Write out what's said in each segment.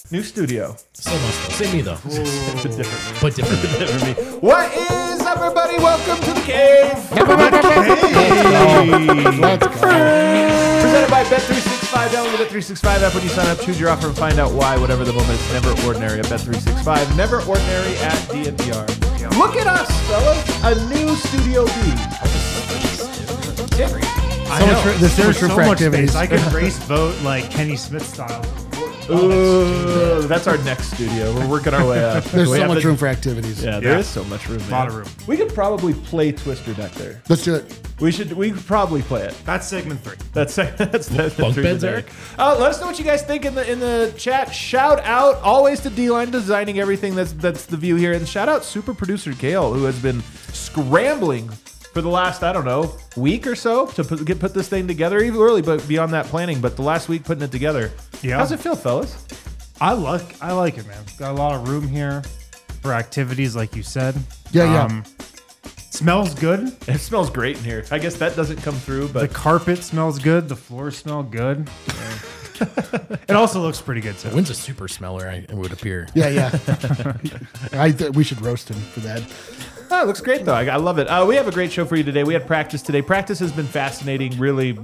New studio. So much fun. Same me though. It's a different But different. different me. What is up, everybody? Welcome to the cave. Let's go. Presented by Bet365. Download the Bet365 app when you sign up. Choose your offer and find out why. Whatever the moment, it's never ordinary at Bet365. Never ordinary at DNVR. Look at us, fellas. A new Studio B. So much for, there's so much room for activities. I could race vote like Kenny Smith style. Ooh, that's our next studio. We're working our way up. There's We so have much to- room for activities. Yeah, there is so much room. A lot of room. We could probably play Twister deck there. Let's do it. We could probably play it. That's segment 3. That's Bunk beds, Eric? Let us know what you guys think in the chat. Shout out always to D-Line designing everything that's the view here, and shout out super producer Kale, who has been scrambling for the last, I don't know, week or so to put this thing together, even early, but beyond that planning. But the last week putting it together. Yeah. How's it feel, fellas? I like it, man. Got a lot of room here for activities, like you said. Yeah. Smells good. It smells great in here. I guess that doesn't come through, The but carpet smells good. The floors smell good. It also looks pretty good too. Wynn's a super smeller, it would appear. Yeah. We should roast him for that. Oh, it looks great, though. I love it. We have a great show for you today. We had practice today. Practice has been fascinating, really,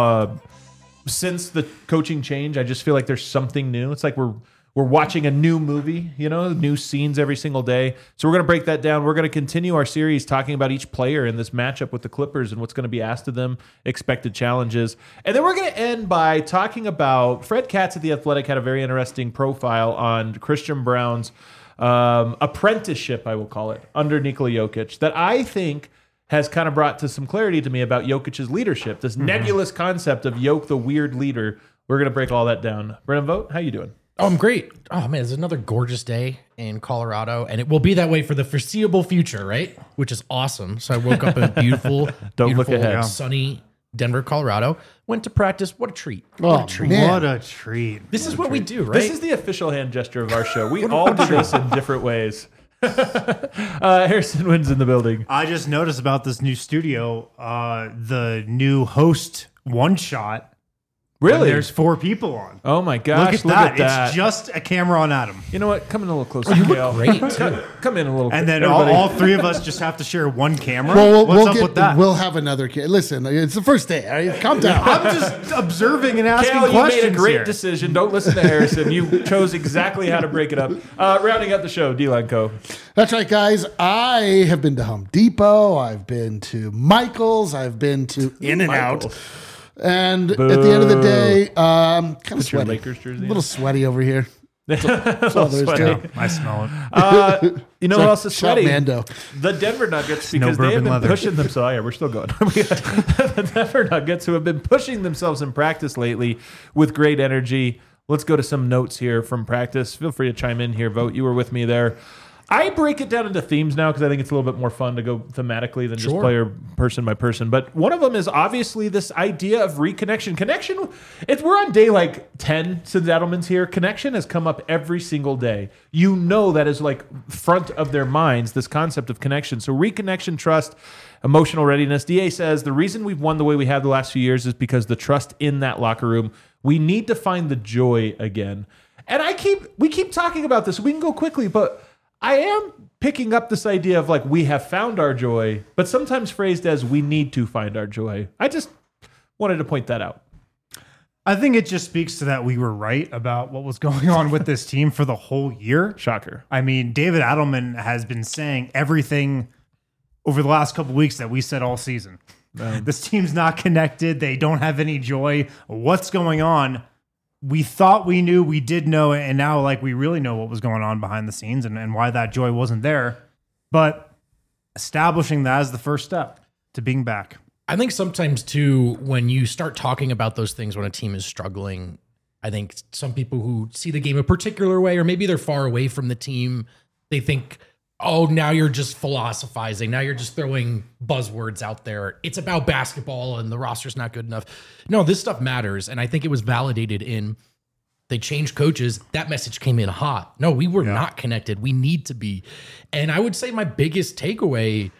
since the coaching change. I just feel like there's something new. It's like we're watching a new movie, new scenes every single day. So we're going to break that down. We're going to continue our series talking about each player in this matchup with the Clippers and what's going to be asked of them, expected challenges. And then we're going to end by talking about Fred Katz at The Athletic had a very interesting profile on Christian Brown's apprenticeship, I will call it, under Nikola Jokic, that I think has kind of brought to some clarity to me about Jokic's leadership, this nebulous concept of Jokic, the weird leader. We're going to break all that down. Brennan Vogt, how you doing? Oh, I'm great. Oh man, it's another gorgeous day in Colorado, and it will be that way for the foreseeable future, right? Which is awesome. So I woke up in a beautiful, Don't look ahead. sunny Denver, Colorado. Went to practice. What a treat! Oh, What a treat! man. What a treat. This is what we do, right? This is the official hand gesture of our show. We all do this in different ways. Harrison Wynn's in the building. I just noticed about this new studio, the new host one shot. Really? There's 4 people on. Oh my gosh! Look at that. It's just a camera on Adam. You know what? Come in a little closer, you Kale. look great too. Come in a little. And then everybody. all 3 of us just have to share one camera. Well, What's up with that? We'll have another kid. Listen, it's the first day. All right? Calm down. I'm just observing and asking Kale, you questions made a great here. decision. Don't listen to Harrison. You chose exactly how to break it up. Rounding out the show, D-Line Co. That's right, guys. I have been to Home Depot. I've been to Michael's. I've been to In-N-Out. Michael's. And at the end of the day, kind of your sweaty. Lakers jersey A little sweaty over here. That's all there is to it. I smell it. You know what else is Shout sweaty? Mando. The Denver Nuggets, because they have bourbon been leather. pushing themselves. Oh, yeah, we're still going. The Denver Nuggets, who have been pushing themselves in practice lately with great energy. Let's go to some notes here from practice. Feel free to chime in here. Vote. You were with me there. I break it down into themes now because I think it's a little bit more fun to go thematically than just player person by person. But one of them is obviously this idea of reconnection. Connection, we're on day like 10 since Edelman's here. Connection has come up every single day. You know that is like front of their minds, this concept of connection. So reconnection, trust, emotional readiness. DA says the reason we've won the way we have the last few years is because the trust in that locker room. We need to find the joy again. And we keep talking about this. We can go quickly, but I am picking up this idea of like we have found our joy, but sometimes phrased as we need to find our joy. I just wanted to point that out. I think it just speaks to that we were right about what was going on with this team for the whole year. Shocker. I mean, David Adelman has been saying everything over the last couple of weeks that we said all season. This team's not connected. They don't have any joy. What's going on? We thought we knew, we did know, and now like we really know what was going on behind the scenes and why that joy wasn't there. But establishing that as the first step to being back. I think sometimes too, when you start talking about those things when a team is struggling, I think some people who see the game a particular way, or maybe they're far away from the team, they think, oh, now you're just philosophizing. Now you're just throwing buzzwords out there. It's about basketball and the roster's not good enough. No, this stuff matters. And I think it was validated in they changed coaches. That message came in hot. No, we were not connected. We need to be. And I would say my biggest takeaway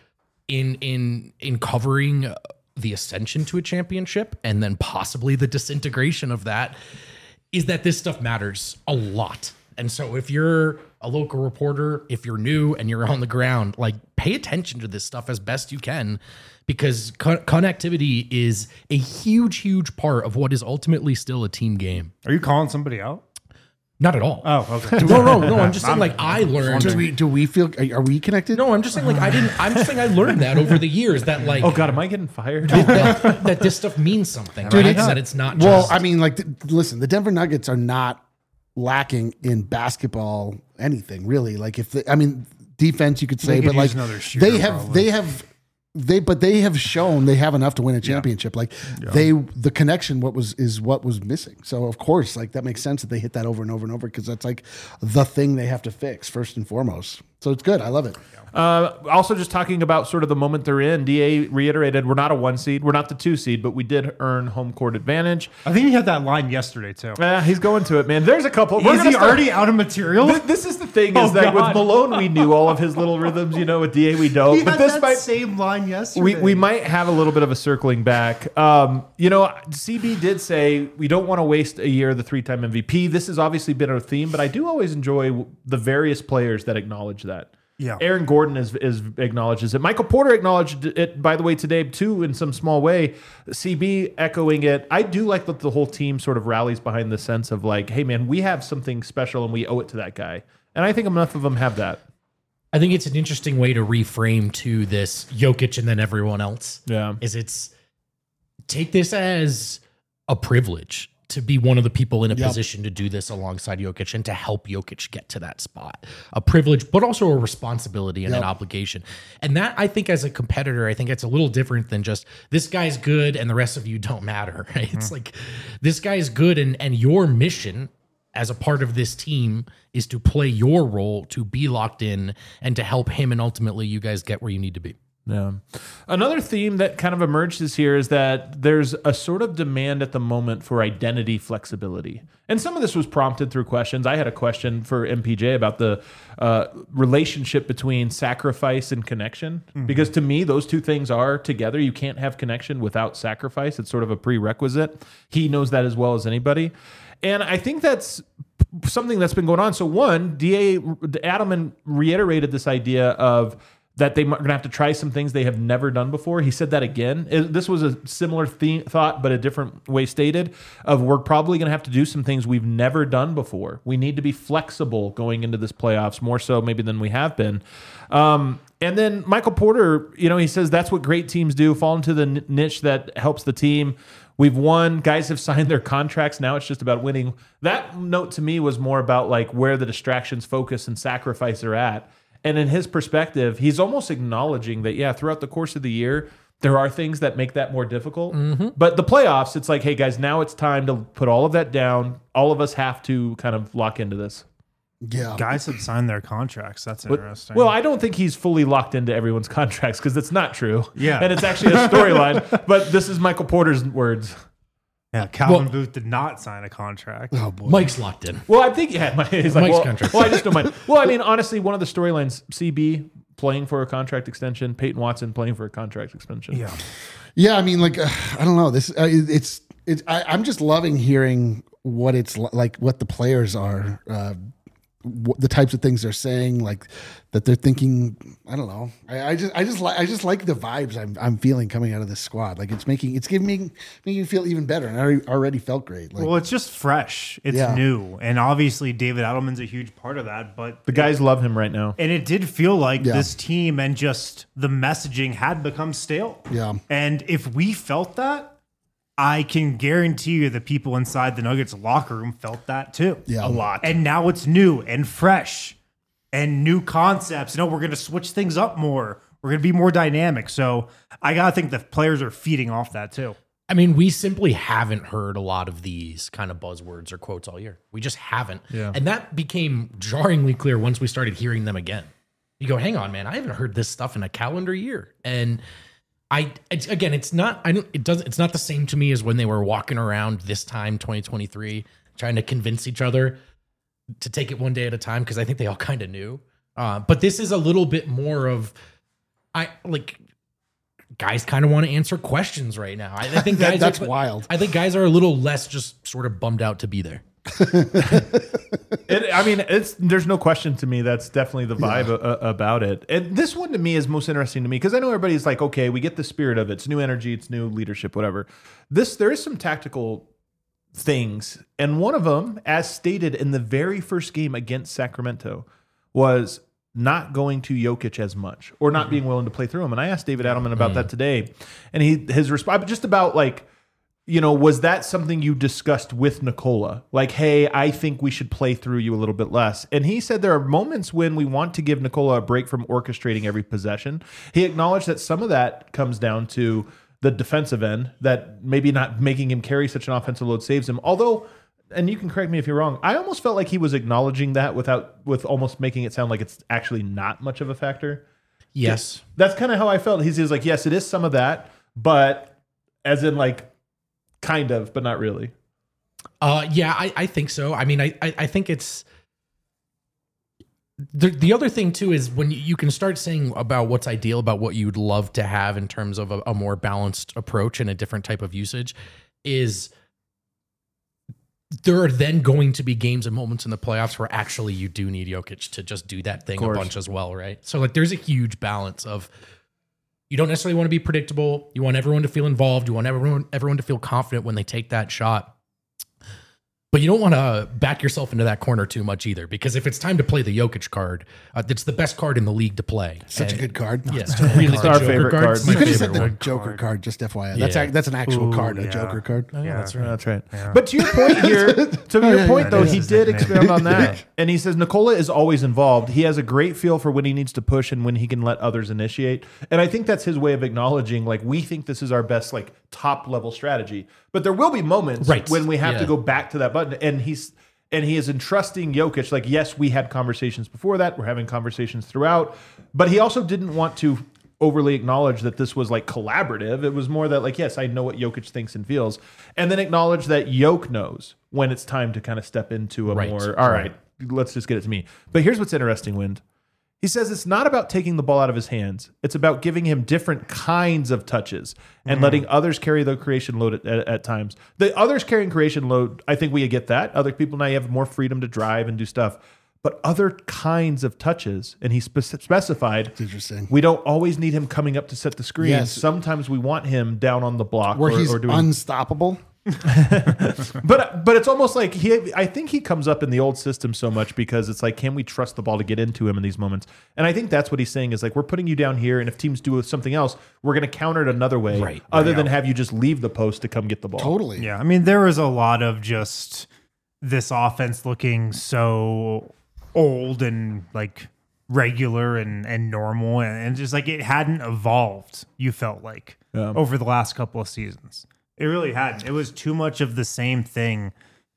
in covering the ascension to a championship and then possibly the disintegration of that is that this stuff matters a lot. And so if you're a local reporter, if you're new and you're on the ground, like pay attention to this stuff as best you can, because connectivity is a huge part of what is ultimately still a team game. Are you calling somebody out? Not at all. Oh, okay. No. I'm just saying, like, I learned. Do we feel? Are we connected? No, I'm just saying, like, I'm just saying I learned that over the years that, like, Oh God, am I getting fired? that this stuff means something, right? That it's not just. Well, I mean, like, listen, the Denver Nuggets are not lacking in basketball anything really. Like, defense you could say, could but like use another shooter, they have shown they have enough to win a championship. Like the connection is what was missing. So of course, like that makes sense that they hit that over and over and over, because that's like the thing they have to fix first and foremost. So it's good. I love it. Also, just talking about sort of the moment they're in, DA reiterated, we're not a 1 seed, we're not the 2 seed, but we did earn home court advantage. I think he had that line yesterday too. He's going to it, man. There's a couple. Is he already out of material? This is the thing, is that with Malone, we knew all of his little rhythms, with DA, we don't. He but had this that might, same line yesterday. we might have a little bit of a circling back. CB did say we don't want to waste a year of the 3-time MVP. This has obviously been our theme, but I do always enjoy the various players that acknowledge that. Yeah. Aaron Gordon is acknowledges it. Michael Porter acknowledged it, by the way, today too, in some small way. CB echoing it. I do like that the whole team sort of rallies behind the sense of like, hey man, we have something special and we owe it to that guy. And I think enough of them have that. I think it's an interesting way to reframe to this Jokic and then everyone else. Yeah. It's take this as a privilege to be one of the people in a position to do this alongside Jokic and to help Jokic get to that spot. A privilege, but also a responsibility and an obligation. And that, I think, as a competitor, I think it's a little different than just this guy's good and the rest of you don't matter. Right? Mm-hmm. It's like this guy's good and your mission as a part of this team is to play your role, to be locked in, and to help him, and ultimately you guys get where you need to be. Yeah. Another theme that kind of emerges here is that there's a sort of demand at the moment for identity flexibility. And some of this was prompted through questions. I had a question for MPJ about the relationship between sacrifice and connection. Mm-hmm. Because to me, those two things are together. You can't have connection without sacrifice. It's sort of a prerequisite. He knows that as well as anybody. And I think that's something that's been going on. So one, Adelman reiterated this idea of that they're going to have to try some things they have never done before. He said that again. This was a similar thought, but a different way stated, of we're probably going to have to do some things we've never done before. We need to be flexible going into this playoffs, more so maybe than we have been. And then Michael Porter, he says that's what great teams do, fall into the niche that helps the team. We've won. Guys have signed their contracts. Now it's just about winning. That note to me was more about like where the distractions, focus, and sacrifice are at. And in his perspective, he's almost acknowledging that, throughout the course of the year, there are things that make that more difficult. Mm-hmm. But the playoffs, it's like, hey, guys, now it's time to put all of that down. All of us have to kind of lock into this. Yeah. Guys have signed their contracts. That's interesting. Well, I don't think he's fully locked into everyone's contracts because that's not true. Yeah. And it's actually a storyline. But this is Michael Porter's words. Yeah, Calvin Booth did not sign a contract. Oh boy. Mike's locked in. Well, I think, he's like, Mike's contract. Well, I just don't mind. Well, I mean, honestly, one of the storylines, CB playing for a contract extension, Peyton Watson playing for a contract extension. Yeah. Yeah, I mean, like, I don't know. This I'm just loving hearing what it's like, what the players are, the types of things they're saying, like that they're thinking. I don't know. I just like the vibes I'm feeling coming out of this squad. Like it's giving me feel even better, and I already felt great. Like, well, it's just fresh. It's new, and obviously David Adelman's a huge part of that. But the guys love him right now, and it did feel like this team and just the messaging had become stale. Yeah, and if we felt that, I can guarantee you the people inside the Nuggets locker room felt that too. Yeah. A lot. And now it's new and fresh and new concepts. We're going to switch things up more. We're going to be more dynamic. So I got to think the players are feeding off that too. I mean, we simply haven't heard a lot of these kind of buzzwords or quotes all year. We just haven't. Yeah. And that became jarringly clear once we started hearing them again. You go, hang on, man, I haven't heard this stuff in a calendar year. And it's not the same to me as when they were walking around this time, 2023, trying to convince each other to take it one day at a time, because I think they all kind of knew. But this is a little bit more of, guys kind of want to answer questions right now. I think guys that's wild. I think guys are a little less just sort of bummed out to be there. There's no question to me. That's definitely the vibe about it. And this one to me is most interesting to me because I know everybody's like, okay, we get the spirit of it. It's new energy, it's new leadership, whatever. There is some tactical things, and one of them, as stated in the very first game against Sacramento, was not going to Jokic as much or not being willing to play through him. And I asked David Adelman about that today, and his response just about like, was that something you discussed with Nikola? Like, hey, I think we should play through you a little bit less. And he said there are moments when we want to give Nikola a break from orchestrating every possession. He acknowledged that some of that comes down to the defensive end, that maybe not making him carry such an offensive load saves him. Although, and you can correct me if you're wrong, I almost felt like he was acknowledging that with almost making it sound like it's actually not much of a factor. Yes. That's kind of how I felt. He was like, yes, it is some of that, but as in like, kind of, but not really. Yeah, I think so. I mean, I think it's the other thing too is when you can start saying about what's ideal, about what you'd love to have in terms of a more balanced approach and a different type of usage, is there are then going to be games and moments in the playoffs where actually you do need Jokic to just do that thing a bunch as well, right? So like there's a huge balance of, you don't necessarily want to be predictable. You want everyone to feel involved. You want everyone to feel confident when they take that shot. But you don't want to back yourself into that corner too much either, because if it's time to play the Jokic card, it's the best card in the league to play. Such a good card. Yes, really It's our favorite card. It's You my could have said favorite the one. Joker card, just FYI. Yeah. That's an actual card, a yeah. Joker card. Oh, yeah, that's right. That's right. But to your point here, though, is he his did nickname. expound on that. And he says Nikola is always involved. He has a great feel for when he needs to push and when he can let others initiate. And I think that's his way of acknowledging, like, we think this is our best, like, top level strategy. But there will be moments when we have to go back to that button. And he is entrusting Jokic. Like, yes, we had conversations before that. We're having conversations throughout. But he also didn't want to overly acknowledge that this was like collaborative. It was more that like, yes, I know what Jokic thinks and feels. And then acknowledge that Jokic knows when it's time to kind of step into a more, all right, let's just get it to me. But here's what's interesting, Wind. He says it's not about taking the ball out of his hands. It's about giving him different kinds of touches and letting others carry the creation load at times. The others carrying creation load, I think we get that. Other people now have more freedom to drive and do stuff. But other kinds of touches, and he specified, That's interesting. we don't always need him coming up to set the screen. Yes. Sometimes we want him down on the block Where he's or doing unstoppable. But it's almost like I think he comes up in the old system so much because it's like, can we trust the ball to get into him in these moments? And I think that's what he's saying is like, we're putting you down here, and if teams do something else, we're going to counter it another way, other than have you just leave the post to come get the ball. Totally. Yeah, I mean, there was a lot of just this offense looking so old and like regular and normal, and just like it hadn't evolved, you felt like, over the last couple of seasons. It really hadn't. It was too much of the same thing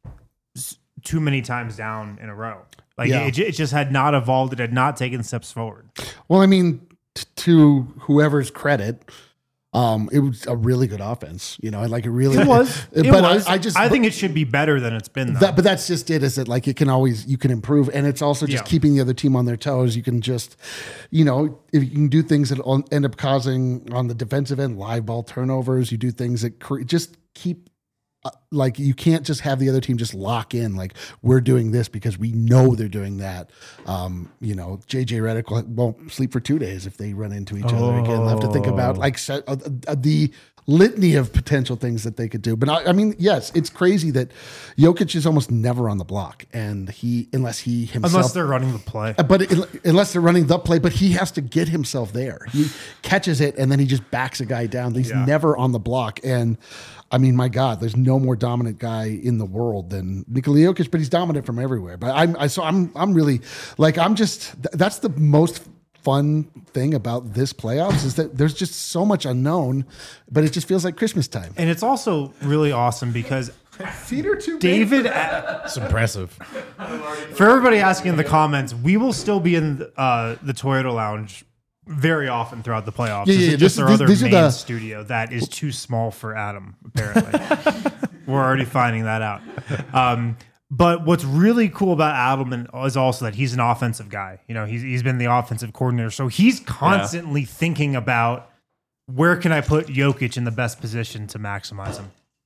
too many times down in a row. Like it just had not evolved. It had not taken steps forward. Well, I mean, to whoever's credit, it was a really good offense. You know, like it really was. It but was. I think it should be better than it's been, though. but that's just it. Is that like you can improve, and it's also just keeping the other team on their toes. You can just, you know, if you can do things that end up causing on the defensive end live ball turnovers. You do things that just keep. Like you can't just have the other team just lock in like we're doing this because we know they're doing that. You know, JJ Redick won't sleep for 2 days if they run into each other again. They'll have to think about like the litany of potential things that they could do. But I mean, yes, it's crazy that Jokic is almost never on the block, and unless they're running the play. But unless they're running the play, but he has to get himself there. He catches it and then he just backs a guy down. He's never on the block. And I mean, my God, there's no more dominant guy in the world than Nikola Jokic, but he's dominant from everywhere. But I'm really like, that's the most fun thing about this playoffs is that there's just so much unknown, but it just feels like Christmas time. And it's also really awesome because David, It's impressive. for everybody asking in the comments, we will still be in the Toyota Lounge very often throughout the playoffs. Yeah, This yeah, is just our other these are main the- studio that is too small for Adam, apparently. We're already finding that out. But what's really cool about Adelman is also that he's an offensive guy. You know, he's been the offensive coordinator. So he's constantly thinking about where can I put Jokic in the best position to maximize him.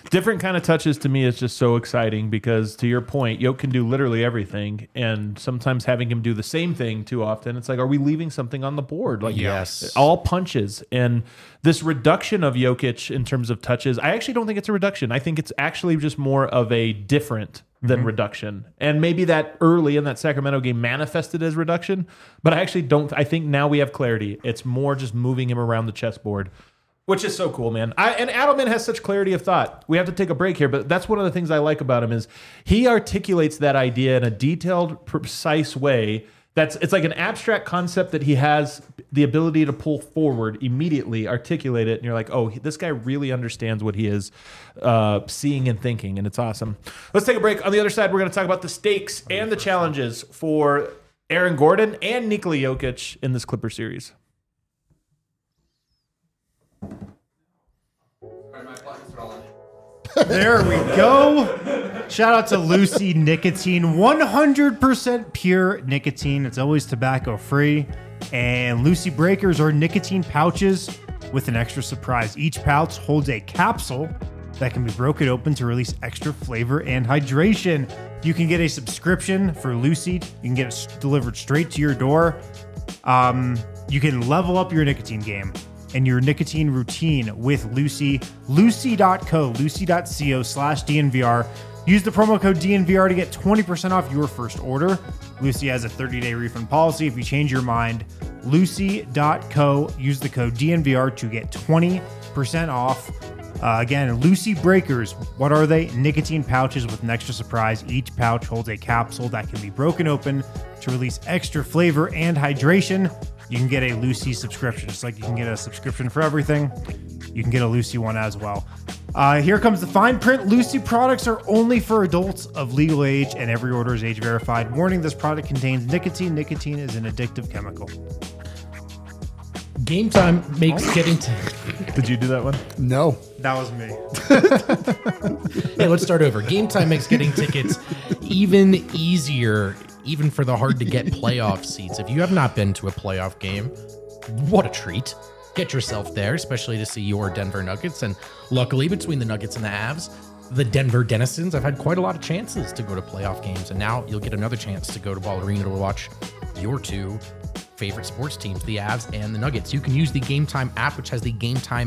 Different kind of touches to me is just so exciting because, to your point, Yoke can do literally everything, and sometimes having him do the same thing too often, it's like, are we leaving something on the board? Like, Yes. all punches. And this reduction of Jokic in terms of touches, I actually don't think it's a reduction. I think it's actually just more of a different than reduction. And maybe that early in that Sacramento game manifested as reduction, but I actually don't. I think now we have clarity. It's more just moving him around the chessboard, which is so cool, man. And Adelman has such clarity of thought. We have to take a break here, but that's one of the things I like about him is he articulates that idea in a detailed, precise way. It's like an abstract concept that he has the ability to pull forward immediately, articulate it, and you're like, oh, this guy really understands what he is seeing and thinking, and it's awesome. Let's take a break. On the other side, we're going to talk about the stakes and the challenges for Aaron Gordon and Nikola Jokic in this Clipper series. There we go. Shout out to Lucy Nicotine, 100% pure nicotine. It's always tobacco free. And Lucy Breakers are nicotine pouches with an extra surprise. Each pouch holds a capsule that can be broken open to release extra flavor and hydration. You can get a subscription for Lucy. You can get it delivered straight to your door. You can level up your nicotine game and your nicotine routine with Lucy. Lucy.co/DNVR. Use the promo code DNVR to get 20% off your first order. Lucy has a 30-day refund policy. If you change your mind, Lucy.co. Use the code DNVR to get 20% off. Again, Lucy Breakers. What are they? Nicotine pouches with an extra surprise. Each pouch holds a capsule that can be broken open to release extra flavor and hydration. You can get a Lucy subscription. Just like you can get a subscription for everything, you can get a Lucy one as well. Here comes the fine print. Lucy products are only for adults of legal age, and every order is age verified. Warning, this product contains nicotine. Nicotine is an addictive chemical. Game time makes getting to... Did you do that one? No. That was me. Hey, let's start over. Game time makes getting tickets even easier, even for the hard to get playoff seats. If you have not been to a playoff game, what a treat. Get yourself there, especially to see your Denver Nuggets. And luckily, between the Nuggets and the Avs, the Denver Denizens have had quite a lot of chances to go to playoff games. And now you'll get another chance to go to Ball Arena to watch your two favorite sports teams, the Avs and the Nuggets. You can use the Game Time app, which has the Game Time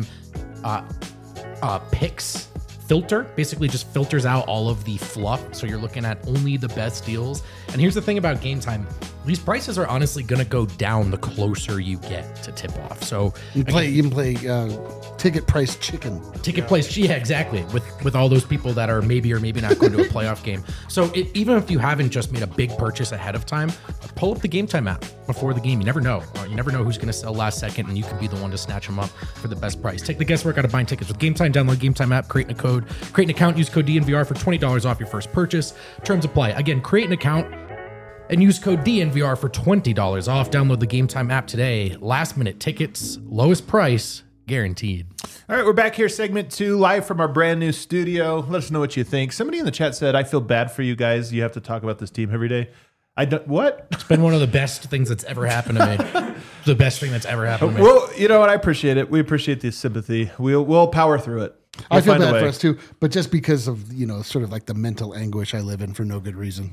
picks filter. Basically just filters out all of the fluff, so you're looking at only the best deals. And here's the thing about Game Time: these prices are honestly going to go down the closer you get to tip off. So You can play ticket price chicken. Ticket place, yeah, exactly. With all those people that are maybe or maybe not going to a playoff game. So even if you haven't just made a big purchase ahead of time, pull up the Game Time app before the game. You never know. You never know who's going to sell last second, and you can be the one to snatch them up for the best price. Take the guesswork out of buying tickets with Game Time. Download Game Time app, create an account, use code DNVR for $20 off your first purchase. Terms apply. Again, create an account and use code DNVR for $20 off. Download the Game Time app today. Last minute tickets, lowest price guaranteed. All right, we're back here, segment 2, live from our brand new studio. Let us know what you think. Somebody in the chat said, I feel bad for you guys. You have to talk about this team every day. I don't, what? It's been one of the best things that's ever happened to me. The best thing that's ever happened to me. Well, you know what? I appreciate it. We appreciate the sympathy. We'll power through it. I feel find a bad way. for us too, but just because of, sort of like the mental anguish I live in for no good reason.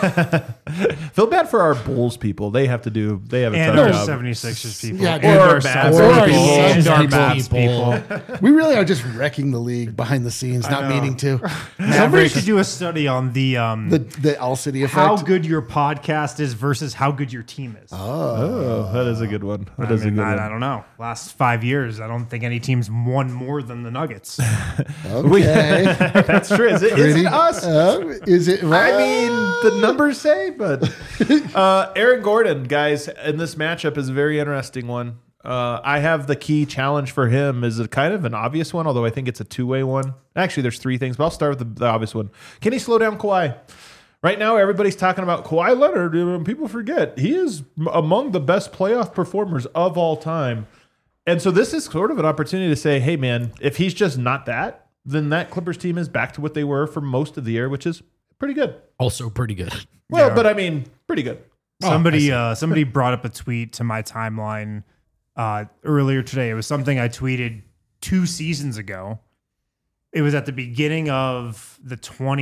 Feel bad for our Bulls people. They have a And tough our job. 76ers people. Yeah, and or our Mavs Suns people. people. And Suns our people. Mavs people. We really are just wrecking the league behind the scenes, not know. meaning to. Somebody should do a study on the All City effect. how good your podcast is versus how good your team is. Oh, that is a good one. That is a good one. I don't know. Last 5 years, I don't think any team's won more than the Nuggets. Okay. That's true. Is it us? Is it? I mean, the numbers say, but Aaron Gordon, guys, in this matchup is a very interesting one. I have the key challenge for him is a kind of an obvious one, although I think it's a two-way one. Actually, there's three things, but I'll start with the obvious one. Can he slow down Kawhi? Right now, everybody's talking about Kawhi Leonard, and people forget he is among the best playoff performers of all time. And so this is sort of an opportunity to say, hey, man, if he's just not that, then that Clippers team is back to what they were for most of the year, which is pretty good. Also pretty good. Well, but I mean, pretty good. Somebody brought up a tweet to my timeline earlier today. It was something I tweeted 2 seasons ago. it was at the beginning of the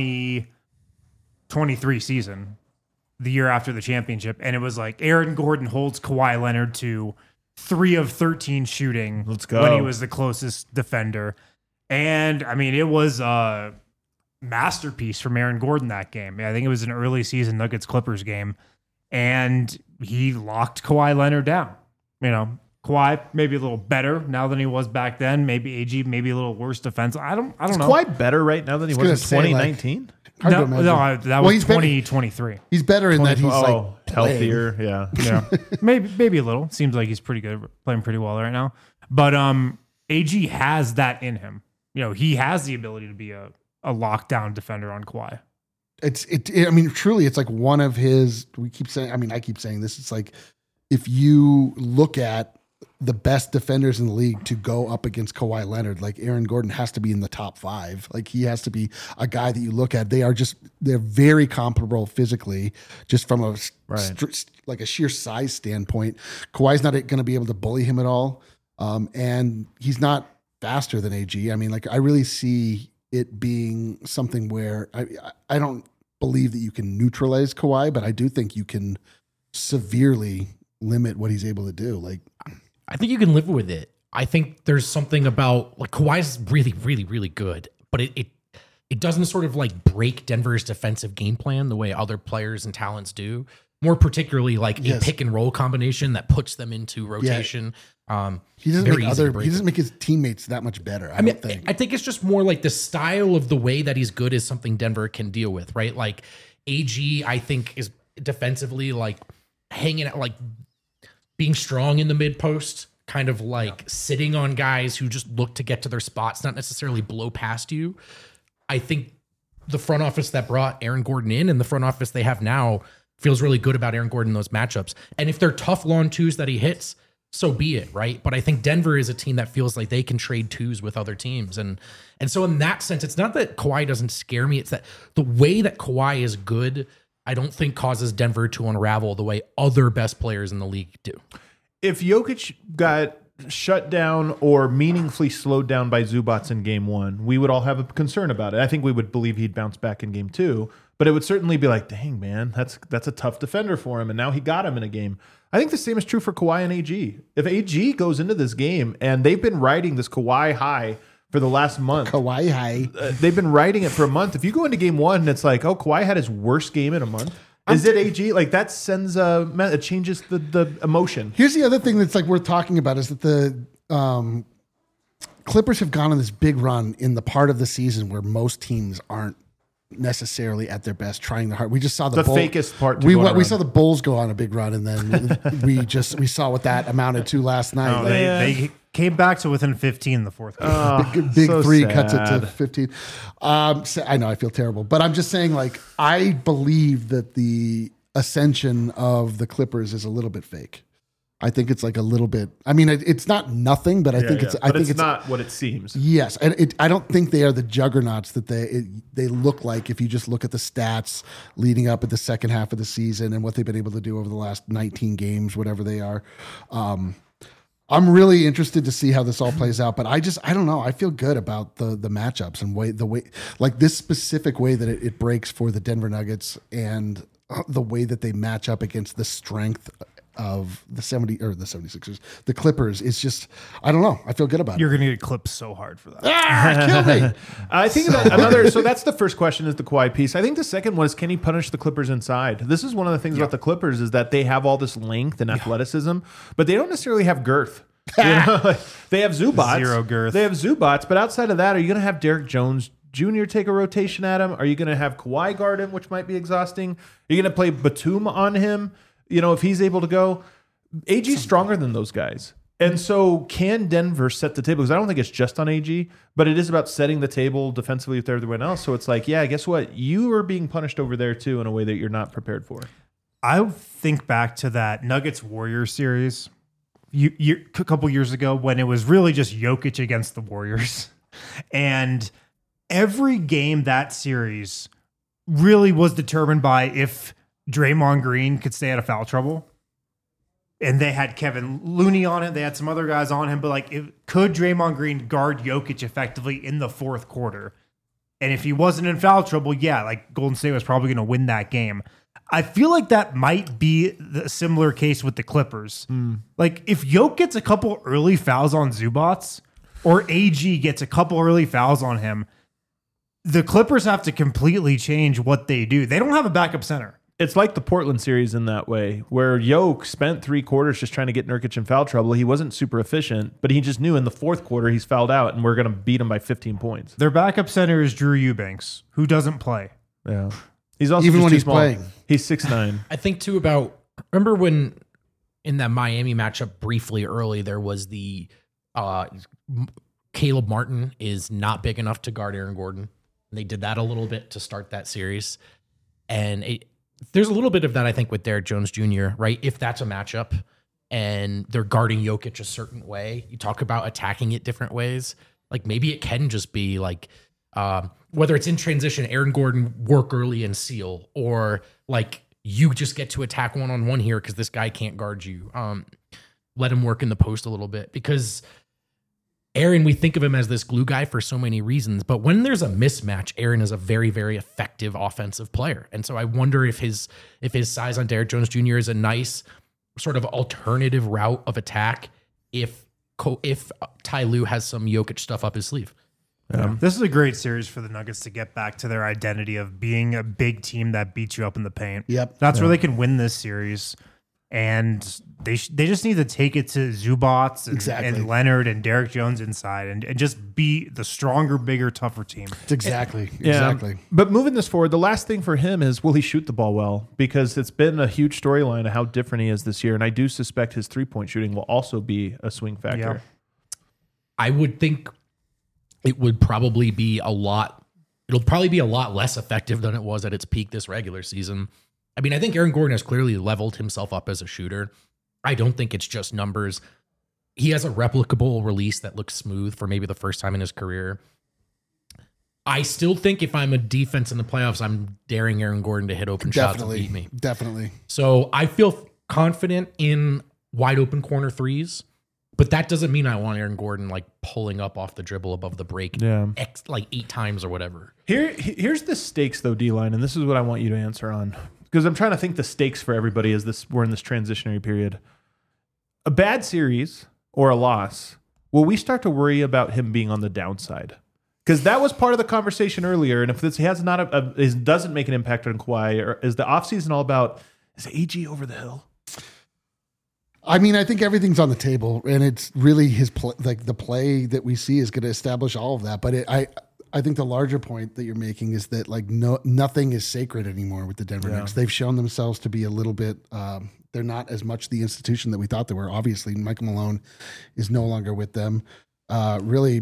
2023 season, the year after the championship, and it was like Aaron Gordon holds Kawhi Leonard to 3 of 13 shooting. Let's go. When he was the closest defender. And I mean, it was a masterpiece from Aaron Gordon that game. I think it was an early season Nuggets Clippers game, and he locked Kawhi Leonard down. You know, Kawhi maybe a little better now than he was back then. Maybe AG maybe a little worse defense. I don't Is know. Kawhi better right now than he was in 2019? Hard to No, imagine. that Well, was 2023. He's better in that he's like healthier. Yeah. Yeah, maybe a little. Seems like he's pretty good, playing pretty well right now. But AG has that in him. You know, he has the ability to be a lockdown defender on Kawhi. I mean, truly, it's like one of his. We keep saying. I mean, I keep saying this. It's like if you look at the best defenders in the league to go up against Kawhi Leonard, like Aaron Gordon has to be in the top 5. Like he has to be a guy that you look at. They're very comparable physically, just from a like a sheer size standpoint. Kawhi's not going to be able to bully him at all, and he's not faster than AG. I mean, like I really see it being something where I don't believe that you can neutralize Kawhi, but I do think you can severely limit what he's able to do. Like, I think you can live with it. I think there's something about like Kawhi's really, really, really good, but it doesn't sort of like break Denver's defensive game plan the way other players and talents do. More particularly like a pick and roll combination that puts them into rotation. He doesn't make his teammates that much better. I think it's just more like the style of the way that he's good is something Denver can deal with, right? Like AG, I think is defensively like hanging out, like being strong in the mid post, kind of like sitting on guys who just look to get to their spots, not necessarily blow past you. I think the front office that brought Aaron Gordon in and the front office they have now feels really good about Aaron Gordon in those matchups. And if they're tough lawn twos that he hits, so be it, right? But I think Denver is a team that feels like they can trade twos with other teams. And so in that sense, it's not that Kawhi doesn't scare me. It's that the way that Kawhi is good, I don't think causes Denver to unravel the way other best players in the league do. If Jokic got shut down or meaningfully slowed down by Zubats in game 1, we would all have a concern about it. I think we would believe he'd bounce back in game 2, but it would certainly be like, dang, man, that's a tough defender for him. And now he got him in a game. I think the same is true for Kawhi and AG. If AG goes into this game and they've been riding this Kawhi high for the last month. Kawhi high. They've been riding it for a month. If you go into game 1 and it's like, oh, Kawhi had his worst game in a month. Is it AG? Like that sends it changes the emotion. Here's the other thing that's like worth talking about is that the Clippers have gone on this big run in the part of the season where most teams aren't necessarily at their best, trying the hard. We just saw the fakest part. We saw the Bulls go on a big run, and then we saw what that amounted to last night. They came back to within 15 in the fourth quarter. Big so three sad. cuts it to 15. I know I feel terrible, but I'm just saying, like, I believe that the ascension of the Clippers is a little bit fake. I think it's like a little bit. I mean, it's not nothing, but I think it's. I think it's not what it seems. Yes, and I don't think they are the juggernauts that they look like if you just look at the stats leading up at the second half of the season and what they've been able to do over the last 19 games, whatever they are. I'm really interested to see how this all plays out, but I don't know. I feel good about the matchups and the way like this specific way that it breaks for the Denver Nuggets and the way that they match up against the strength of the 76ers, the Clippers. It's just, I don't know. I feel good about You're it. going to get clipped so hard for that. Kill me. I think about another. So that's the first question, is the Kawhi piece. I think the second one is, can he punish the Clippers inside? This is one of the things about the Clippers is that they have all this length and athleticism, but they don't necessarily have girth. You know, like, they have Zubats. Zero girth. They have Zubats, but outside of that, are you going to have Derek Jones Jr. take a rotation at him? Are you going to have Kawhi guard him, which might be exhausting? Are you going to play Batum on him? You know, if he's able to go, AG's stronger than those guys. And so can Denver set the table? Because I don't think it's just on AG, but it is about setting the table defensively with everyone else. So it's like, yeah, guess what? You are being punished over there too in a way that you're not prepared for. I think back to that Nuggets Warriors series a couple years ago when it was really just Jokic against the Warriors. And every game that series really was determined by if Draymond Green could stay out of foul trouble. and they had Kevin Looney on it. They had some other guys on him, but like, could Draymond Green guard Jokic effectively in the fourth quarter? And if he wasn't in foul trouble, yeah, like Golden State was probably going to win that game. I feel like that might be the similar case with the Clippers. Like if Jokic gets a couple early fouls on Zubats or AG gets a couple early fouls on him, the Clippers have to completely change what they do. They don't have a backup center. It's like the Portland series in that way, where Jokic spent 3 quarters just trying to get Nurkic in foul trouble. He wasn't super efficient, but he just knew in the fourth quarter he's fouled out, and we're going to beat him by 15 points. Their backup center is Drew Eubanks, who doesn't play. Yeah, he's also Even just when too he's small. playing. He's 6'9". I think too about, remember when in that Miami matchup briefly early, there was the Caleb Martin is not big enough to guard Aaron Gordon. And they did that a little bit to start that series. And there's a little bit of that, I think, with Derek Jones Jr., right? If that's a matchup and they're guarding Jokic a certain way, you talk about attacking it different ways. Like maybe it can just be like, whether it's in transition, Aaron Gordon work early and seal, or like you just get to attack one-on-one here because this guy can't guard you. Let him work in the post a little bit, because Aaron, we think of him as this glue guy for so many reasons, but when there's a mismatch, Aaron is a very, very effective offensive player. And so I wonder if his size on Derek Jones Jr. is a nice sort of alternative route of attack if Ty Lue has some Jokic stuff up his sleeve. This is a great series for the Nuggets to get back to their identity of being a big team that beats you up in the paint. Yep. That's where they can win this series. And they just need to take it to Zubats and Leonard and Derek Jones inside and just be the stronger, bigger, tougher team. Exactly. Yeah. But moving this forward, the last thing for him is, will he shoot the ball well? Because it's been a huge storyline of how different he is this year. And I do suspect his 3-point shooting will also be a swing factor. Yeah. I would think it would probably be it'll probably be a lot less effective than it was at its peak this regular season. I mean, I think Aaron Gordon has clearly leveled himself up as a shooter. I don't think it's just numbers. He has a replicable release that looks smooth for maybe the first time in his career. I still think if I'm a defense in the playoffs, I'm daring Aaron Gordon to hit open shots and beat me. Definitely. So I feel confident in wide open corner threes, but that doesn't mean I want Aaron Gordon like pulling up off the dribble above the break like 8 times or whatever. Here's the stakes though, D-line, and this is what I want you to answer on. Because I'm trying to think the stakes for everybody as we're in this transitionary period. A bad series or a loss, will we start to worry about him being on the downside? Because that was part of the conversation earlier. And if this doesn't make an impact on Kawhi, or is the offseason all about, is AG over the hill? I mean, I think everything's on the table, and it's really his the play that we see is going to establish all of that. But I think the larger point that you're making is that like nothing is sacred anymore with the Denver Nuggets. They've shown themselves to be a little bit. They're not as much the institution that we thought they were. Obviously, Michael Malone is no longer with them. Really,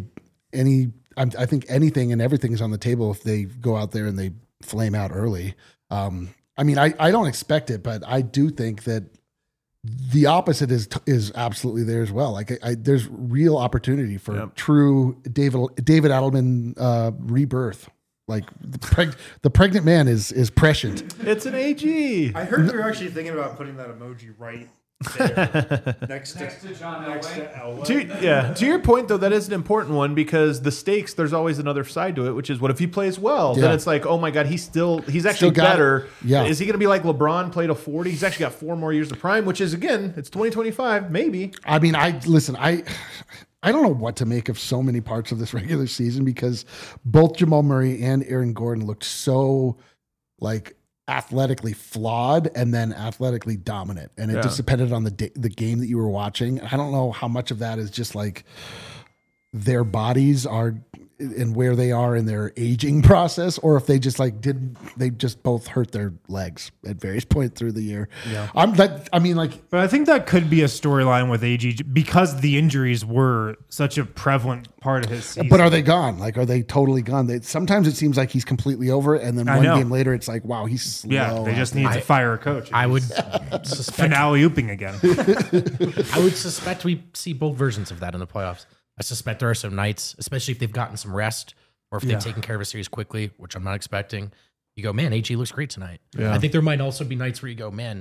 I think anything and everything is on the table if they go out there and they flame out early. I mean, I don't expect it, but I do think that the opposite is absolutely there as well. Like there's real opportunity for true David Adelman rebirth. Like the pregnant man is prescient. It's an AG. I heard we were actually thinking about putting that emoji right there next to John Elway. To your point though, that is an important one, because the stakes, there's always another side to it, which is what if he plays well? Then it's like, oh my God, he's actually better. Yeah. Is he going to be like LeBron, played a 40? He's actually got 4 more years of prime, which is, again, it's 2025, maybe. I mean, I don't know what to make of so many parts of this regular season, because both Jamal Murray and Aaron Gordon looked so like athletically flawed and then athletically dominant, and it just depended on the game that you were watching. I don't know how much of that is just like their bodies are and where they are in their aging process, or if they just they just both hurt their legs at various points through the year. But I think that could be a storyline with AG because the injuries were such a prevalent part of his season. But are they gone? Like, are they totally gone? Sometimes it seems like he's completely over, and then one game later, it's like, wow, he's slow. Yeah, they just need to fire a coach. I would suspect finale ooping again. I would suspect we see both versions of that in the playoffs. I suspect there are some nights, especially if they've gotten some rest or if they've taken care of a series quickly, which I'm not expecting. You go, man, AG looks great tonight. Yeah. I think there might also be nights where you go, man,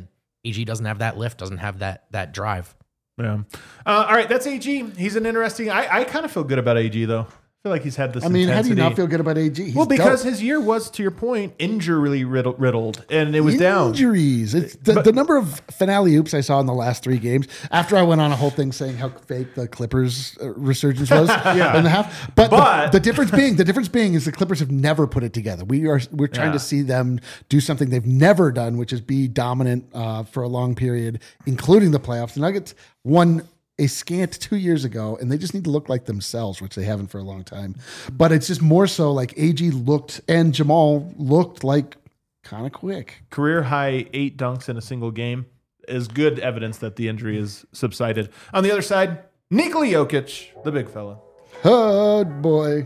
AG doesn't have that lift, doesn't have that drive. Yeah. All right, that's AG. He's an interesting. I kind of feel good about AG though. I feel like he's had this. I mean, how do you intensity. not feel good about AG? He's Well, because dope. his year was, to your point, injury riddled, and it was down. Injuries. It's the number of finale oops I saw in the last 3 games. After I went on a whole thing saying how fake the Clippers resurgence was in the half, but the difference being is the Clippers have never put it together. We're trying to see them do something they've never done, which is be dominant for a long period, including the playoffs. The Nuggets won a scant 2 years ago, and they just need to look like themselves, which they haven't for a long time. But it's just more so like AG looked and Jamal looked like kind of quick. Career high 8 dunks in a single game is good evidence that the injury is subsided. On the other side, Nikola Jokic, the big fella. Oh boy.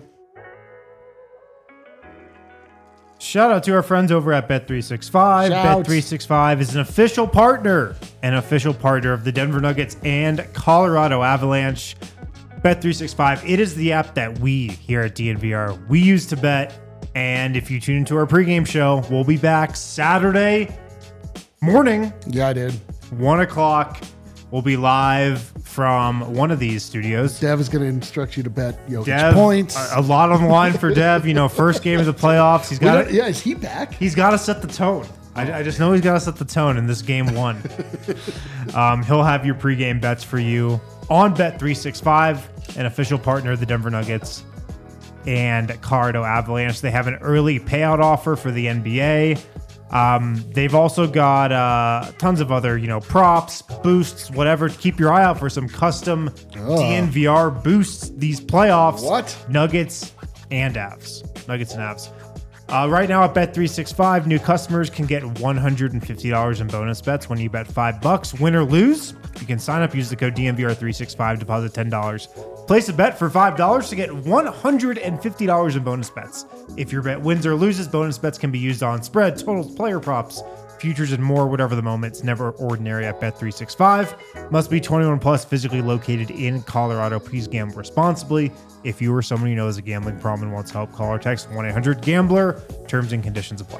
Shout out to our friends over at Bet365. Shouts. Bet365 is an official partner of the Denver Nuggets and Colorado Avalanche. Bet365, it is the app that we here at DNVR, we use to bet. And if you tune into our pregame show, we'll be back Saturday morning, Yeah, I did. 1 o'clock. We'll be live from one of these studios. Dev is going to instruct you to bet Jokic Dev, points. a lot on the line for Dev. You know, first game of the playoffs. He's got Yeah, is he back? He's got to set the tone. I just know he's got to set the tone in this game 1. He'll have your pregame bets for you on Bet365, an official partner of the Denver Nuggets and Colorado Avalanche. They have an early payout offer for the NBA. They've also got tons of other, props, boosts, whatever. Keep your eye out for some custom DNVR boosts these playoffs. What? Nuggets and Avs. Right now at Bet365, new customers can get $150 in bonus bets when you bet $5. Win or lose, you can sign up, use the code DNVR365, deposit $10. Place a bet for $5 to get $150 in bonus bets. If your bet wins or loses, bonus bets can be used on spread, totals, player props, futures, and more, whatever the moment. It's never ordinary at Bet365. Must be 21 plus, physically located in Colorado. Please gamble responsibly. If you or someone you know has a gambling problem and wants help, call or text 1-800-GAMBLER. Terms and conditions apply.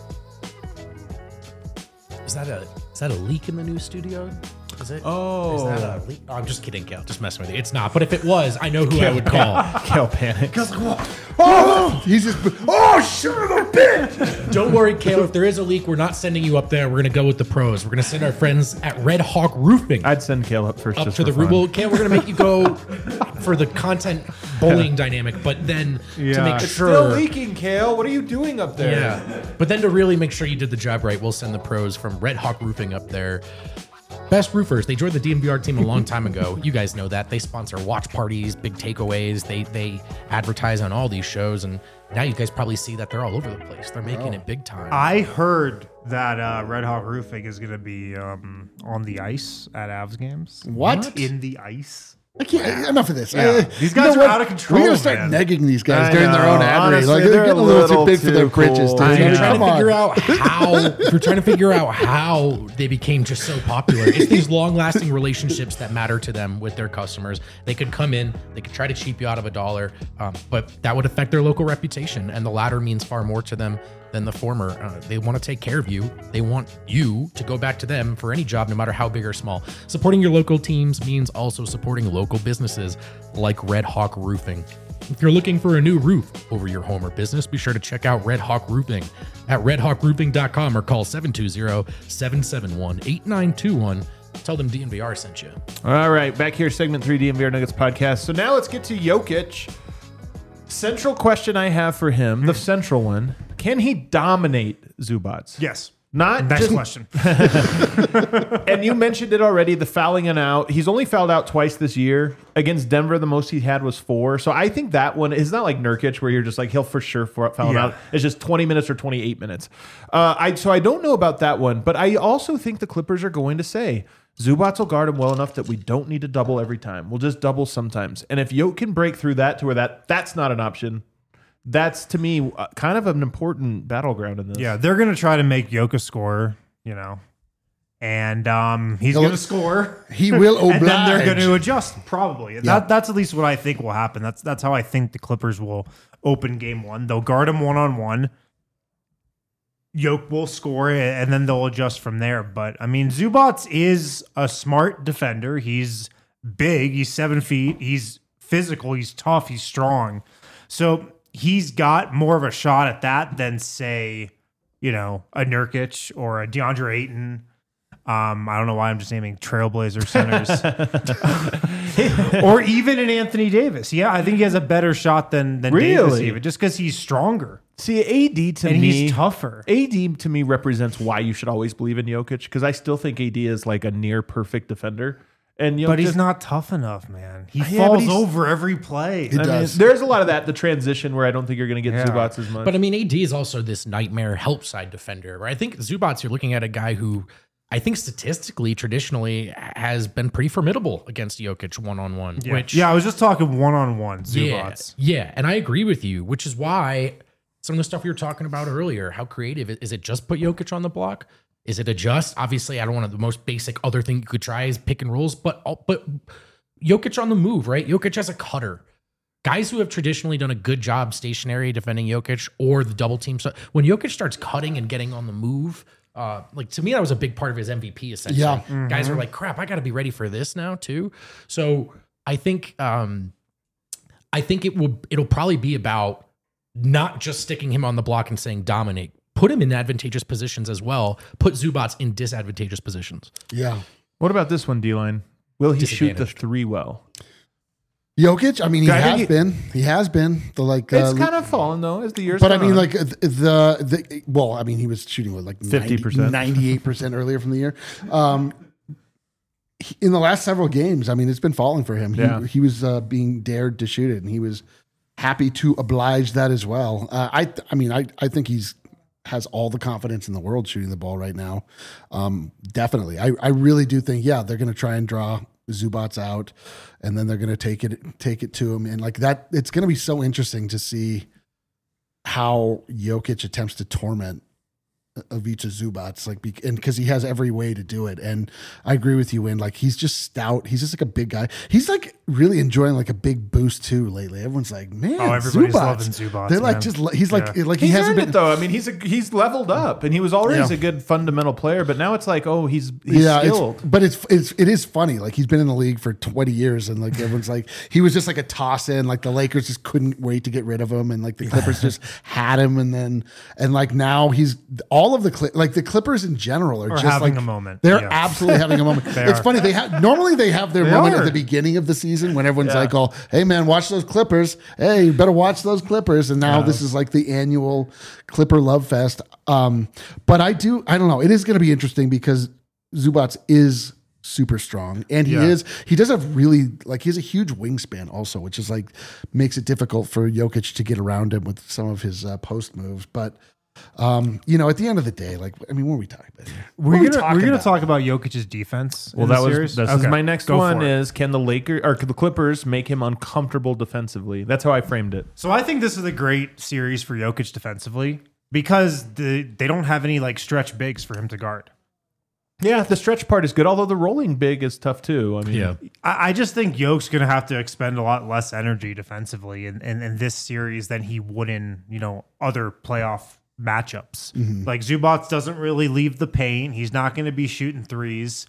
Is that a leak in the new studio? Is it? Oh. Is that a leak? Oh, I'm just kidding, Kale. Just messing with you. It's not. But if it was, I know who I would call. Kale panic. Oh, he's just, son of a bitch. Don't worry, Kale. If there is a leak, we're not sending you up there. We're going to go with the pros. We're going to send our friends at Red Hawk Roofing I'd send Kale up first. up just to the for roof. fun. Well, Kale, we're going to make you go for the content bullying dynamic, but then to make It's sure. still leaking, Kale. What are you doing up there? Yeah. But then to really make sure you did the job right, we'll send the pros from Red Hawk Roofing up there. Best roofers. They joined the DNVR team a long time ago. You guys know that. They sponsor watch parties, big takeaways. They advertise on all these shows. And now you guys probably see that they're all over the place. They're making it big time. I heard that Red Hawk Roofing is going to be on the ice at Avs games. What? In the ice. I can't. Enough of this. Yeah. These guys are out of control, We gotta start man. negging these guys I during their know. own ad read. Honestly, Like they're they're getting a little too little big for their too britches. cool. dude. If you're I mean, trying come to on. figure out how if you're trying to figure out how they became just so popular, it's these long-lasting relationships that matter to them with their customers. They could come in, they could try to cheap you out of $1, but that would affect their local reputation, and the latter means far more to them than the former. They want to take care of you. They want you to go back to them for any job, no matter how big or small. Supporting your local teams means also supporting local businesses like Red Hawk Roofing. If you're looking for a new roof over your home or business, be sure to check out Red Hawk Roofing at redhawkroofing.com or call 720-771-8921. Tell them DNVR sent you. All right, back here, segment 3, DNVR Nuggets podcast. So now let's get to Jokic. Central question I have for him, the central one: can he dominate Zubats? Yes. Not Next just, question. and you mentioned it already, the fouling and out. He's only fouled out twice this year. Against Denver, the most he had was 4. So I think that one is not like Nurkic, where you're just like, he'll for sure foul him Yeah. out. It's just 20 minutes or 28 minutes. So I don't know about that one, but I also think the Clippers are going to say, Zubats will guard him well enough that we don't need to double every time. We'll just double sometimes. And if Yoke can break through that to where that's not an option, that's, to me, kind of an important battleground in this. Yeah, they're going to try to make Jokic score, and he's going to score. He will oblige. And then they're going to adjust, probably. That's at least what I think will happen. That's how I think the Clippers will open game 1. They'll guard him one-on-one. Yoke will score and then they'll adjust from there. But I mean, Zubats is a smart defender. He's big. He's 7 feet. He's physical. He's tough. He's strong. So he's got more of a shot at that than, say, a Nurkic or a DeAndre Ayton. I don't know why I'm just naming Trailblazer centers. Or even an Anthony Davis. Yeah, I think he has a better shot than Davis even, just because he's stronger. See, AD to me, he's tougher. AD to me represents why you should always believe in Jokic, because I still think AD is like a near perfect defender. But he's not tough enough, man. He falls over every play. There's a lot of that, the transition, where I don't think you're going to get Zubats as much. But I mean, AD is also this nightmare help side defender. Right? I think Zubats, you're looking at a guy who I think statistically, traditionally, has been pretty formidable against Jokic one-on-one. I was just talking one-on-one, Zubats. Yeah, and I agree with you, which is why some of the stuff we were talking about earlier, how creative, is it just put Jokic on the block? Is it adjust? Obviously, I don't want to, the most basic other thing you could try is pick and rolls, but Jokic on the move, right? Jokic as a cutter. Guys who have traditionally done a good job stationary defending Jokic or the double team. So when Jokic starts cutting and getting on the move, to me, that was a big part of his MVP, essentially. Yeah. Mm-hmm. Guys are like, crap, I got to be ready for this now too. So I think it'll probably be about not just sticking him on the block and saying dominate. Put him in advantageous positions as well. Put Zubats in disadvantageous positions. Yeah. What about this one, D-line? Will he shoot the three well? Jokic, I mean, he has been. He has been. It's kind of fallen though as the years. But I mean, like he was shooting with like 50%, 98% earlier from the year. In the last several games, I mean, it's been falling for him. He was being dared to shoot it, and he was happy to oblige that as well. I think has all the confidence in the world shooting the ball right now. Definitely, I really do think they're going to try and draw Zubats out, and then they're going to take it to him, and like that, it's going to be so interesting to see how Jokic attempts to torment Ivica Zubats, and because he has every way to do it. And I agree with you, Win. Like, he's just stout. He's just like a big guy. He's like really enjoying like a big boost too lately. Everyone's like, man, everybody's loving Zubats. They're like, he's like he hasn't been though. I mean, he's leveled up, and he was always a good fundamental player, but now it's like, he's skilled. But it is funny. Like, he's been in the league for 20 years, and like everyone's like, he was just like a toss in. Like, the Lakers just couldn't wait to get rid of him, and like the Clippers just had him, and like now he's all of the Clippers in general are just having like a moment. They're absolutely having a moment. It's funny. They have their moment at the beginning of the season when everyone's like, "Oh, hey man, watch those Clippers. Hey, you better watch those Clippers." And now this is like the annual Clipper love fest. But I don't know. It is going to be interesting because Zubats is super strong, and he does have really, like, he has a huge wingspan also, which is like makes it difficult for Jokic to get around him with some of his post moves. But at the end of the day, like, I mean, what are we talking about here? We're gonna talk about Jokic's defense. Well, this is my next one. Is can the Clippers make him uncomfortable defensively? That's how I framed it. So I think this is a great series for Jokic defensively because they don't have any like stretch bigs for him to guard. Yeah, the stretch part is good, although the rolling big is tough too. I mean, I just think Yoke's going to have to expend a lot less energy defensively in this series than he would in other playoff matchups. Mm-hmm. Like, Zubats doesn't really leave the paint. He's not going to be shooting threes.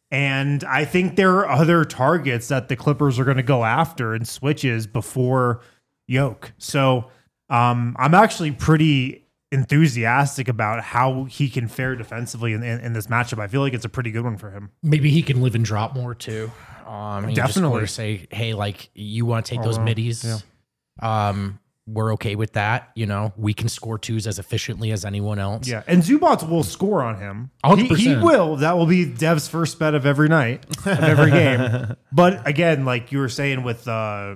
And I think there are other targets that the Clippers are going to go after and switches before Jokic. So I'm actually pretty enthusiastic about how he can fare defensively in this matchup. I feel like it's a pretty good one for him. Maybe he can live and drop more too. Definitely. Just say, hey, like, you want to take those middies? Yeah. We're okay with that. We can score twos as efficiently as anyone else. Yeah, and Zubats will score on him. 100%. He will. That will be Dev's first bet of every night, of every game. But again, like you were saying with the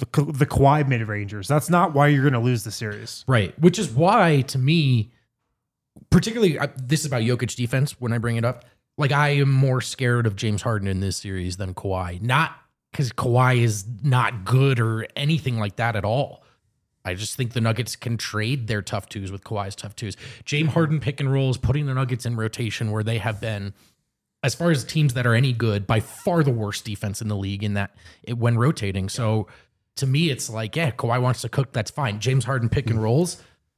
Kawhi mid-rangers, that's not why you're going to lose the series. Right, which is why, to me, particularly, this is about Jokic defense when I bring it up. Like, I am more scared of James Harden in this series than Kawhi. Not because Kawhi is not good or anything like that at all. I just think the Nuggets can trade their tough twos with Kawhi's tough twos. James Harden pick and rolls, putting the Nuggets in rotation where they have been, as far as teams that are any good, by far the worst defense in the league when rotating. So to me, it's like, Kawhi wants to cook, that's fine. James Harden pick and rolls,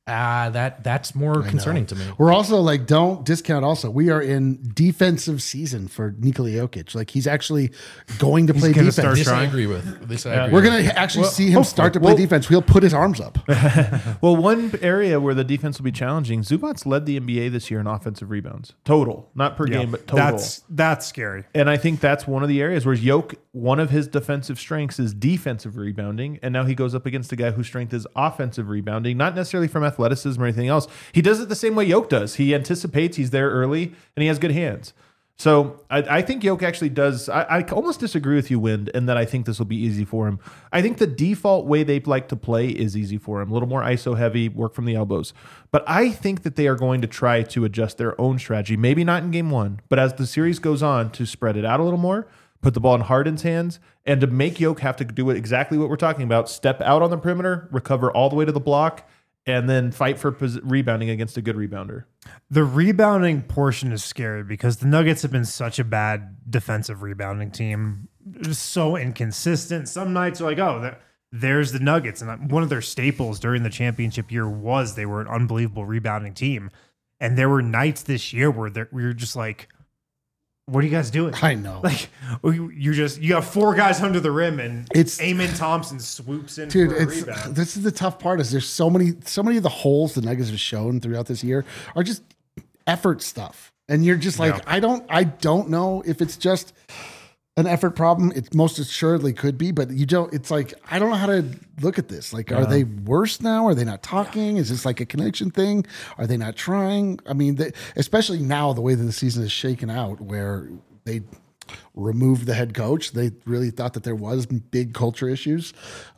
That's more concerning to me. We're also like, don't discount also. We are in defensive season for Nikola Jokic. Like he's actually going to play gonna defense. start This I trying. agree with. This I agree We're with. going to actually see him start to play defense. He'll put his arms up. Well, one area where the defense will be challenging, Zubac's led the NBA this year in offensive rebounds. Total. Not per game, but total. That's scary. And I think that's one of the areas where one of his defensive strengths is defensive rebounding. And now he goes up against a guy whose strength is offensive rebounding, not necessarily from athleticism or anything else. He does it the same way Jokic does. He anticipates, he's there early, and he has good hands. So I think Jokic actually does. I almost disagree with you, Wind, in that I think this will be easy for him. I think the default way they like to play is easy for him. A little more ISO heavy, work from the elbows. But I think that they are going to try to adjust their own strategy. Maybe not in game one, but as the series goes on, to spread it out a little more, put the ball in Harden's hands, and to make Jokic have to do exactly what we're talking about. Step out on the perimeter, recover all the way to the block, and then fight for rebounding against a good rebounder. The rebounding portion is scary because the Nuggets have been such a bad defensive rebounding team. Just so inconsistent. Some nights are like, oh, there's the Nuggets. And one of their staples during the championship year was they were an unbelievable rebounding team. And there were nights this year where we were just like, what are you guys doing? I know. Like you have four guys under the rim and It's- Amen Thompson swoops in Dude, for a rebound. this is the tough part is there's so many of the holes the Nuggets have shown throughout this year are just effort stuff. And you're just like, I don't know if it's just an effort problem. It most assuredly could be, but it's like, I don't know how to look at this. Like, are they worse now? Are they not talking? Is this like a connection thing? Are they not trying? I mean, especially now, the way that the season is shaken out, where they removed the head coach, they really thought that there was big culture issues.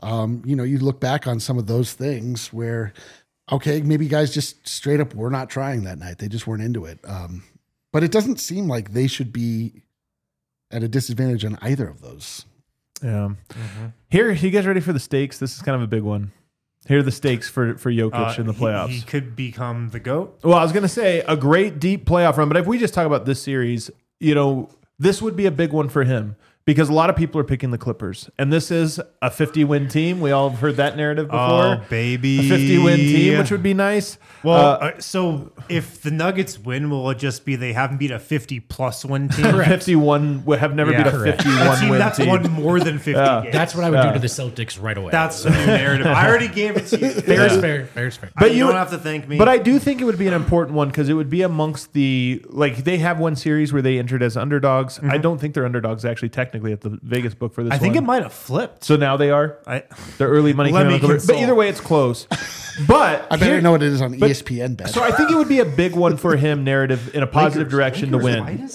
You look back on some of those things where, okay, maybe guys just straight up were not trying that night. They just weren't into it. But it doesn't seem like they should be at a disadvantage on either of those. Yeah. Here, you guys ready for the stakes? This is kind of a big one. Here are the stakes for Jokic in the playoffs. He could become the GOAT. Well, I was going to say a great deep playoff run, but if we just talk about this series, this would be a big one for him because a lot of people are picking the Clippers. And this is a 50-win team. We all have heard that narrative before. Oh, baby. A 50-win team, which would be nice. Well, so if the Nuggets win, will it just be they haven't beat a 50-plus win team? 51 would have never beat a Correct. 51-win That's team. won more than 50 games. That's what I would do to the Celtics right away. That's the new narrative. I already gave it to you. fair is fair. Fair is fair. But you you- don't have to thank me. But I do think it would be an important one because it would be amongst they have one series where they entered as underdogs. I don't think they're underdogs actually technically at the Vegas book for this I think one. it might have flipped. So now they are. Their early money Let came me on the Clippers. But consult. either way, it's close. But I better know what it is on ESPN bet. So I think it would be a big one for him, narrative in a positive direction to win.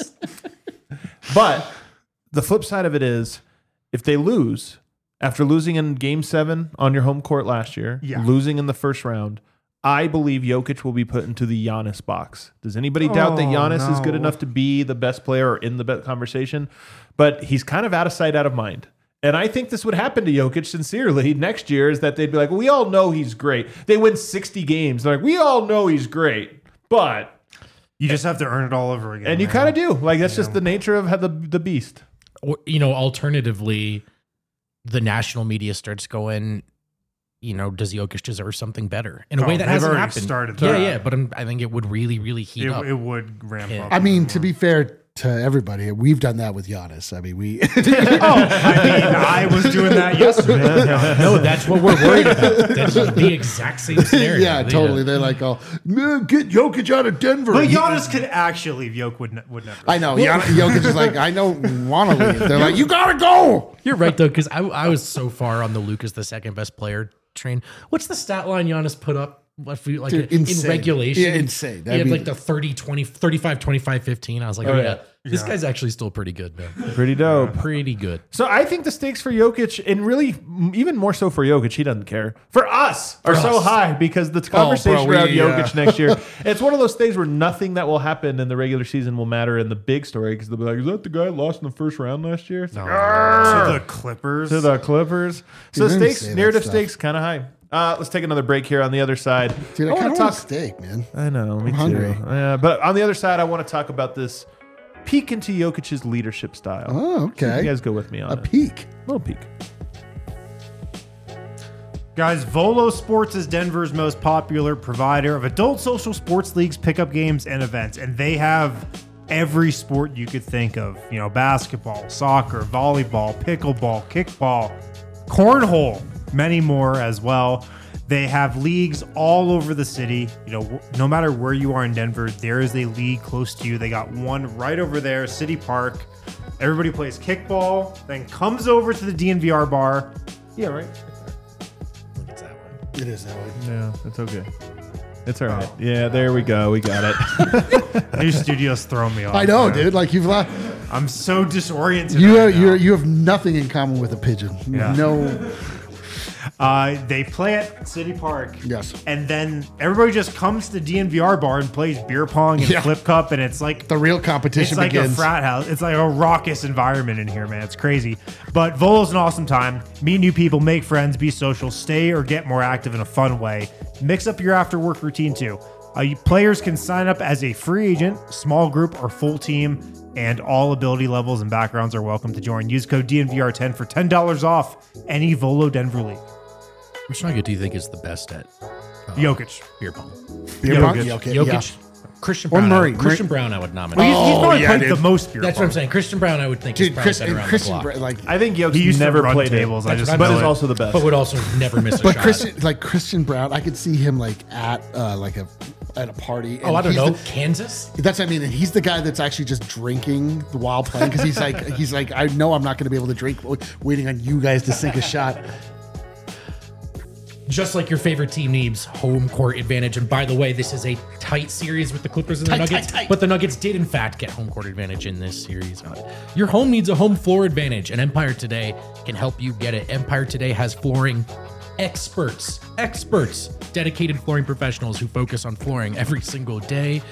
But the flip side of it is, if they lose, after losing in Game 7 on your home court last year, losing in the first round, I believe Jokic will be put into the Giannis box. Does anybody doubt that Giannis is good enough to be the best player or in the best conversation? But he's kind of out of sight, out of mind. And I think this would happen to Jokic sincerely next year, is that they'd be like, well, we all know he's great. They win 60 games. They're like, we all know he's great, but... You just have to earn it all over again. And you kind of do. Like, that's just the nature of the beast. Or, alternatively, the national media starts going, does Jokic deserve something better in a way that they've hasn't already happened? started Yeah, that. yeah. But I think it would really, really heat up. It would ramp up. I mean, to be fair to everybody, we've done that with Giannis. I mean, I was doing that yesterday. No, that's what we're worried about. That's the exact same scenario. yeah, totally. They're like, "Oh, man, get Jokic out of Denver." But Giannis could actually leave. Jokic would never. I know. Jokic is like, I don't want to leave. They're like, you gotta go. You're right though, because I was so far on the Lucas the second best player train. What's the stat line Giannis put up? Dude, in insane. regulation? Yeah, insane. He I had mean- like the 30, 20, 35, 25, 15. I was like, this guy's actually still pretty good, man. Pretty dope. Pretty good. So I think the stakes for Jokic, and really even more so for Jokic, he doesn't care. For us, are so high because the conversation around Jokic next year, it's one of those things where nothing that will happen in the regular season will matter in the big story because they'll be like, is that the guy who lost in the first round last year? It's like, To the Clippers. to the Clippers. So Dude, don't stakes, say that narrative stuff. stakes, kind of high. Let's take another break here on the other side. Dude, I wanna kind of want a steak, man. I know, me too. hungry. Yeah, but on the other side, I want to talk about this peek into Jokic's leadership style. Oh, See if okay. you guys go with me on A it. peek. Little peek. Guys, Volo Sports is Denver's most popular provider of adult social sports leagues, pickup games, and events. And they have every sport you could think of. You know, basketball, soccer, volleyball, pickleball, kickball, cornhole, many more as well. They have leagues all over the city. You know, no matter where you are in Denver, there is a league close to you. They got one right over there, City Park. Everybody plays kickball, then comes over to the DNVR bar. Yeah, right. It is that way. Yeah, it's okay. It's all right. Yeah, there we go. We got it. New studio's throwing me off. I know, man. dude. Like you've lost. I'm so disoriented. You right now. you have nothing in common with a pigeon. Yeah. No. They play at City Park. Yes. And then everybody just comes to the DNVR bar and plays beer pong and Yeah. flip cup, and it's like The real competition it's like begins. a frat house. It's like a raucous environment in here, man. It's crazy. But Volo's an awesome time. Meet new people, make friends, be social, stay or get more active in a fun way. Mix up your after work routine too. Players can sign up as a free agent, small group, or full team, and all ability levels and backgrounds are welcome to join. Use code DNVR10 for $10 off any Volo Denver league. Which nugget do you think is the best at Jokic. beer pong? Beer pong? Jokic. Yeah, okay, Jokic, Christian Or Brown. Murray. Christian Brown, I would nominate. Well, he's probably yeah, played dude. the most beer That's pong. what I'm saying. Christian Brown, I would think, is Dude, probably better around the Christian, block. like, I think Yoke's He used to never run played tables. it, I just what I but know is it. also the best. But would also never miss a but shot. Christian Brown, I could see him like at a party. Oh, and I don't he's know. the- Kansas? That's what I mean, and he's the guy that's actually just drinking while playing because he's like, I know I'm not going to be able to drink, waiting on you guys to sink a shot. Just like your favorite team needs home court advantage. And by the way, this is a tight series with the Clippers and the Nuggets. tight. But the Nuggets did, in fact, get home court advantage in this series. Your home needs a home floor advantage, and Empire Today can help you get it. Empire Today has flooring experts, dedicated flooring professionals who focus on flooring every single day.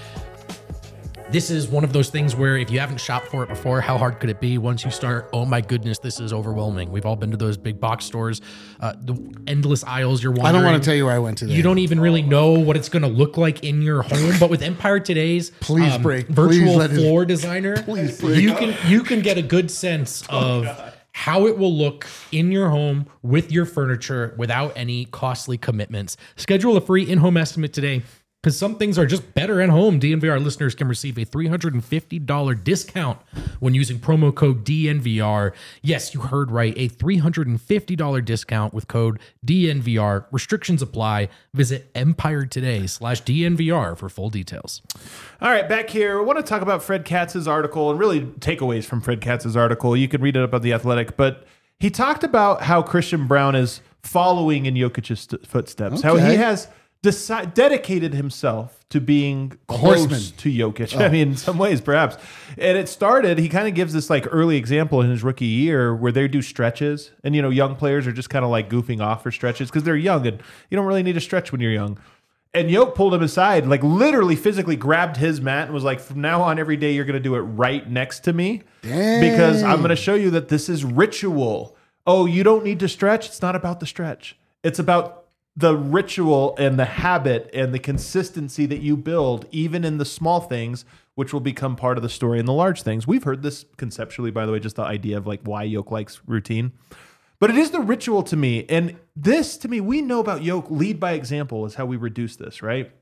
This is one of those things where if you haven't shopped for it before, how hard could it be? Once you start, oh my goodness, this is overwhelming. We've all been to those big box stores, the endless aisles. You're I wondering. don't want to tell you where I went today. You don't even really know what it's going to look like in your home. But with Empire Today's Please break. virtual Please let it- floor designer, Please break. you can get a good sense of how it will look in your home with your furniture without any costly commitments. Schedule a free in-home estimate today, because some things are just better at home. DNVR listeners can receive a $350 discount when using promo code DNVR. Yes, you heard right. A $350 discount with code DNVR. Restrictions apply. Visit EmpireToday.com/DNVR for full details. All right, back here, I want to talk about Fred Katz's article and really takeaways from Fred Katz's article. You can read it up on The Athletic, but he talked about how Christian Brown is following in Jokic's footsteps, how he has dedicated himself to being close horseman. to Jokic. I mean, in some ways, perhaps. And it started, he kind of gives this like early example in his rookie year where they do stretches. And, you know, young players are just kind of like goofing off for stretches because they're young and you don't really need to stretch when you're young. And Yoke pulled him aside, like literally physically grabbed his mat and was like, from now on, every day you're going to do it right next to me because I'm going to show you that this is ritual. Oh, you don't need to stretch. It's not about the stretch. It's about the ritual and the habit and the consistency that you build, even in the small things, which will become part of the story in the large things. We've heard this conceptually, by the way, just the idea of like why Yoke likes routine. But it is the ritual to me. And this, to me, we know about Yoke, lead by example is how we reduce this, right?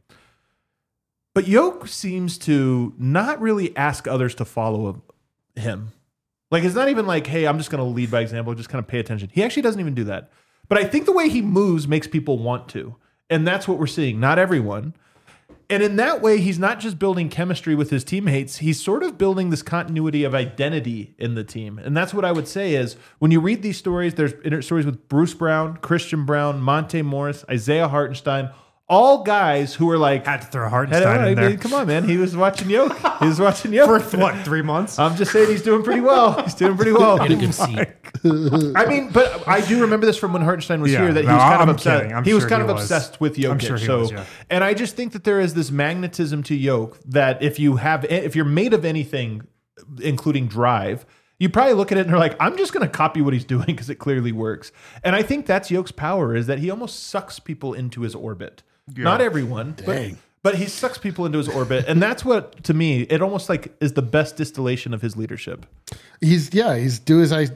But Yoke seems to not really ask others to follow him. Like, it's not even like, hey, I'm just going to lead by example, just kind of pay attention. He actually doesn't even do that. But I think the way he moves makes people want to. And that's what we're seeing. Not everyone. And in that way, he's not just building chemistry with his teammates. He's sort of building this continuity of identity in the team. And that's what I would say is when you read these stories, there's stories with Bruce Brown, Christian Brown, Monte Morris, Isaiah Hartenstein, all guys who were like... Had to throw Hartenstein in there. Come on, man. He was watching Yoke. He was watching Yoke. For what, 3 months? I'm just saying he's doing pretty well. He's doing pretty well. Get a good seat. I mean, but I do remember this from when Hartenstein was Yeah, here that he no, was kind of I'm obsessed. kidding. I'm He was sure kind he of was. obsessed with Jokic. I'm sure he so, was, yeah. and I just think that there is this magnetism to Yoke that if you're made of anything, including drive, you probably look at it and are like, I'm just going to copy what he's doing because it clearly works. And I think that's Yoke's power is that he almost sucks people into his orbit. Not everyone, but he sucks people into his orbit. And that's what, to me, it almost like is the best distillation of his leadership. He's do as I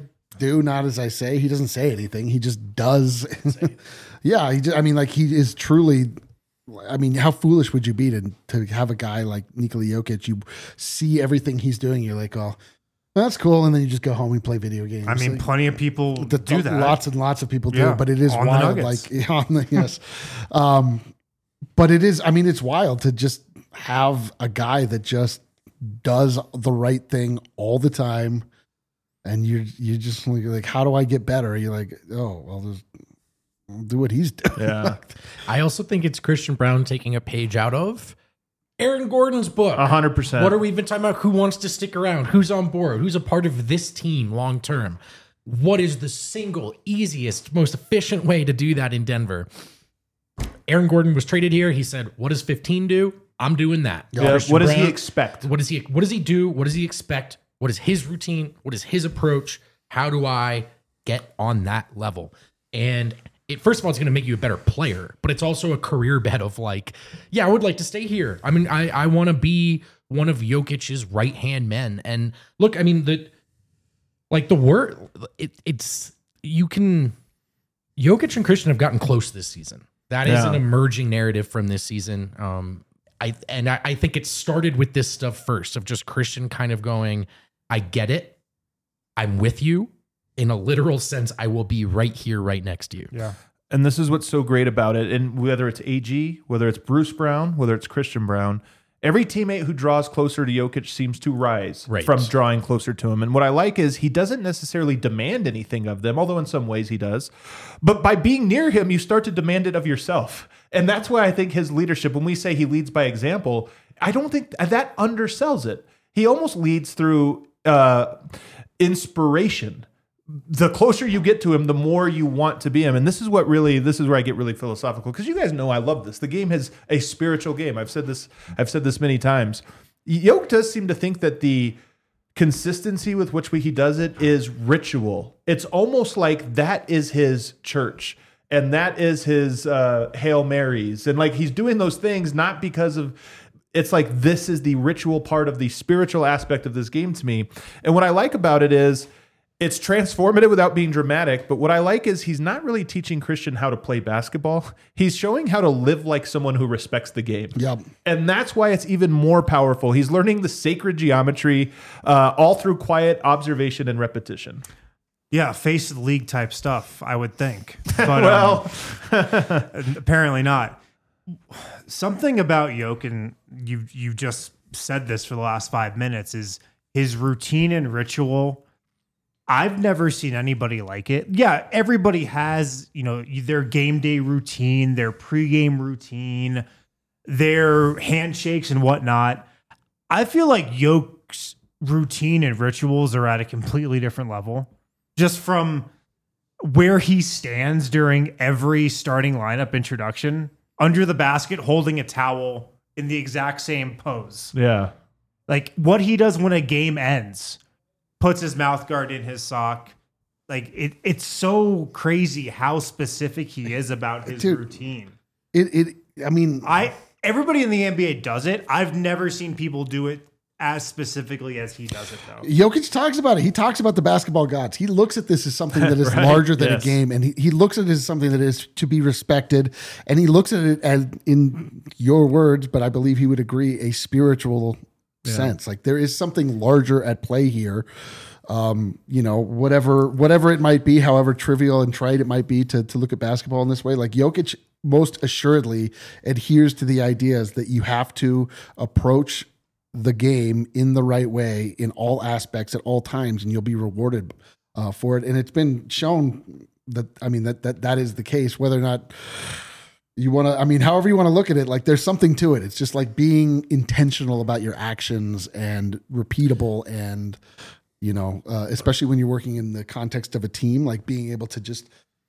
do, not as I say. He doesn't say anything. He just does. Yeah. He is truly. I mean, how foolish would you be to have a guy like Nikola Jokic? You see everything he's doing. You're like, oh, that's cool. And then you just go home and play video games. I mean, plenty of people do that. Lots and lots of people do. Yeah, But it is on the wild. Nuggets. Yes. But it is, it's wild to just have a guy that just does the right thing all the time. And you're just like, how do I get better? You're like, oh, well, I'll do what he's doing. Yeah. I also think it's Christian Brown taking a page out of Aaron Gordon's book. 100%. What are we even talking about? Who wants to stick around? Who's on board? Who's a part of this team long term? What is the single easiest, most efficient way to do that in Denver? Aaron Gordon was traded here. He said, what does 15 do? I'm doing that. Yeah, Christian what does he Brown, expect? What does he do? What does he expect? What is his routine? What is his approach? How do I get on that level? And first of all, it's going to make you a better player, but it's also a career bet of like, yeah, I would like to stay here. I mean, I want to be one of Jokic's right-hand men. And look, I mean, Jokic and Christian have gotten close this season. That is an emerging narrative from this season. I think it started with this stuff first of just Christian kind of going, I get it. I'm with you. In a literal sense, I will be right here, right next to you. Yeah. And this is what's so great about it. And whether it's AG, whether it's Bruce Brown, whether it's Christian Brown, every teammate who draws closer to Jokic seems to rise from drawing closer to him. And what I like is he doesn't necessarily demand anything of them, although in some ways he does. But by being near him, you start to demand it of yourself. And that's why I think his leadership, when we say he leads by example, I don't think that undersells it. He almost leads through inspiration. The closer you get to him, the more you want to be him. And this is where I get really philosophical, because you guys know I love this. The game is a spiritual game. I've said this many times. Jokic does seem to think that the consistency with which he does it is ritual. It's almost like that is his church and that is his Hail Marys. And like he's doing those things not because of, it's like this is the ritual part of the spiritual aspect of this game to me. And what I like about it is it's transformative without being dramatic. But what I like is he's not really teaching Christian how to play basketball. He's showing how to live like someone who respects the game. Yep. And that's why it's even more powerful. He's learning the sacred geometry all through quiet observation and repetition. Yeah, face of the league type stuff, I would think. But Well, apparently not. Something about Jokic, you just said this for the last 5 minutes, is his routine and ritual. I've never seen anybody like it. Yeah, everybody has, their game day routine, their pregame routine, their handshakes and whatnot. I feel like Jokic's routine and rituals are at a completely different level. Just from where he stands during every starting lineup introduction, under the basket, holding a towel in the exact same pose. yeah. Like what he does when a game ends, puts his mouth guard in his sock. Like it's so crazy how specific he is about his routine. Everybody in the NBA does it. I've never seen people do it as specifically as he does it, though. Jokic talks about it. He talks about the basketball gods. He looks at this as something that is Right? larger than Yes. a game, and he looks at it as something that is to be respected. And he looks at it as, in your words, but I believe he would agree, a spiritual sense. Like there is something larger at play here. Whatever it might be, however trivial and trite it might be to look at basketball in this way, like Jokic most assuredly adheres to the ideas that you have to approach the game in the right way in all aspects at all times, and you'll be rewarded for it. And it's been shown that that is the case. Whether or not you want to, however you want to look at it, like there's something to it. It's just like being intentional about your actions and repeatable, and especially when you're working in the context of a team, like being able to just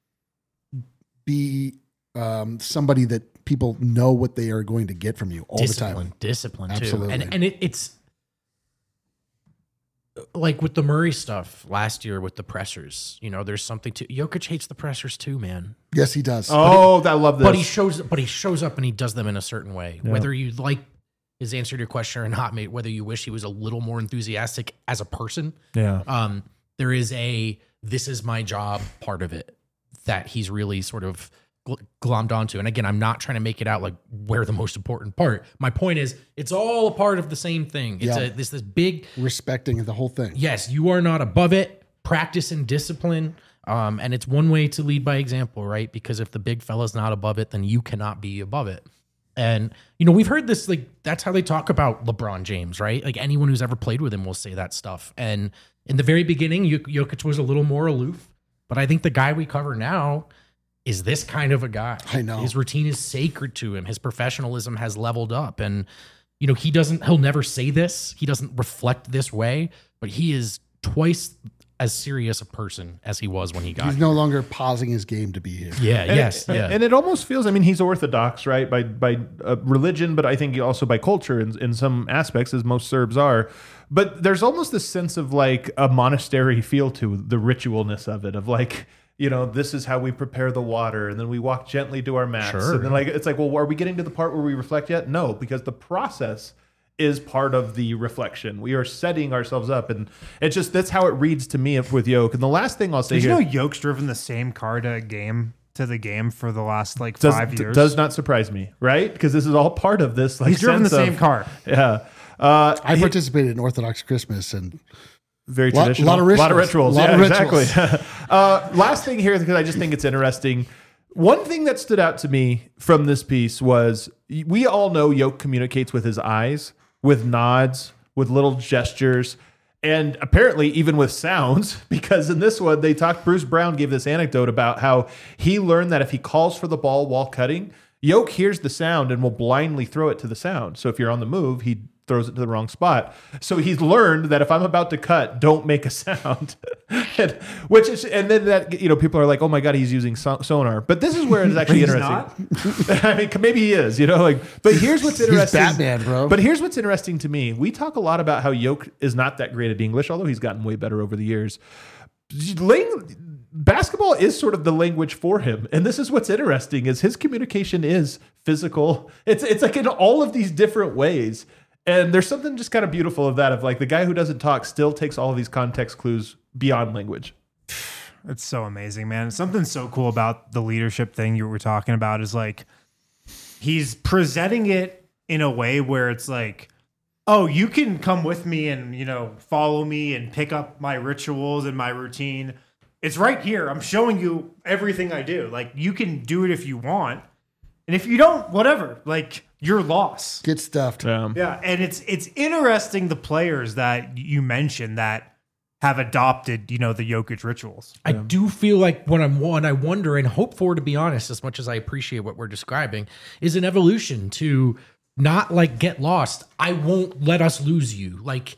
be somebody that people know what they are going to get from you all the time. Discipline too. Absolutely. And it's like with the Murray stuff last year with the pressers, there's something to Jokic hates the pressers too, man. Yes, he does. Oh, I love this. But he shows up and he does them in a certain way. Yeah. Whether you like his answer to your question or not, mate, whether you wish he was a little more enthusiastic as a person. Yeah. There is a this is my job part of it that he's really sort of glommed onto. And again, I'm not trying to make it out like we're the most important part. My point is, it's all a part of the same thing. It's this big Respecting the whole thing. yes, you are not above it. Practice and discipline. And it's one way to lead by example, right? Because if the big fella's not above it, then you cannot be above it. And, we've heard this, like, that's how they talk about LeBron James, right? Like, anyone who's ever played with him will say that stuff. And in the very beginning, Jokic was a little more aloof. But I think the guy we cover now is this kind of a guy. I know. His routine is sacred to him. His professionalism has leveled up. And, he'll never say this. He doesn't reflect this way, but he is twice as serious a person as he was when he got He's here. no longer pausing his game to be here. Yeah, And it almost feels, he's Orthodox, right, by religion, but I think also by culture in some aspects, as most Serbs are. But there's almost this sense of like a monastery feel to the ritualness of it, of like, this is how we prepare the water, and then we walk gently to our mats. Sure. And then it's like, well, are we getting to the part where we reflect yet? No, because the process is part of the reflection. We are setting ourselves up, and it's just that's how it reads to me with Yoke. And the last thing I'll say Did you here, know Yoke's driven the same car to the game for the last 5 years? does not surprise me, right? Because this is all part of this. Like, He's driven the sense same of- car. Yeah. I participated in Orthodox Christmas, and Very Lot- traditional. lot of rituals. Lot of Exactly. Last thing here, because I just think it's interesting. One thing that stood out to me from this piece was we all know Yoke communicates with his eyes, with nods, with little gestures, and apparently even with sounds, because in this one, Bruce Brown gave this anecdote about how he learned that if he calls for the ball while cutting, Yoke hears the sound and will blindly throw it to the sound. So if you're on the move, he throws it to the wrong spot. So he's learned that if I'm about to cut, don't make a sound. and then that, people are like, oh my God, he's using sonar. But this is where it's actually He's interesting. I mean, maybe he is, but here's what's interesting. He's Batman, bro. But here's what's interesting to me. We talk a lot about how Yoke is not that great at English, although he's gotten way better over the years. Basketball is sort of the language for him. And this is what's interesting is his communication is physical. It's like in all of these different ways. And there's something just kind of beautiful of that, of like the guy who doesn't talk still takes all of these context clues beyond language. It's so amazing, man. Something so cool about the leadership thing you were talking about is like he's presenting it in a way where it's like, oh, you can come with me and, follow me and pick up my rituals and my routine. It's right here. I'm showing you everything I do. Like, you can do it if you want. And if you don't, whatever. Like, you're lost. get stuffed. Yeah, and it's interesting the players that you mentioned that have adopted, the Jokic rituals. I do feel like what I wonder and hope for, to be honest, as much as I appreciate what we're describing, is an evolution to not like get lost. I won't let us lose you. Like,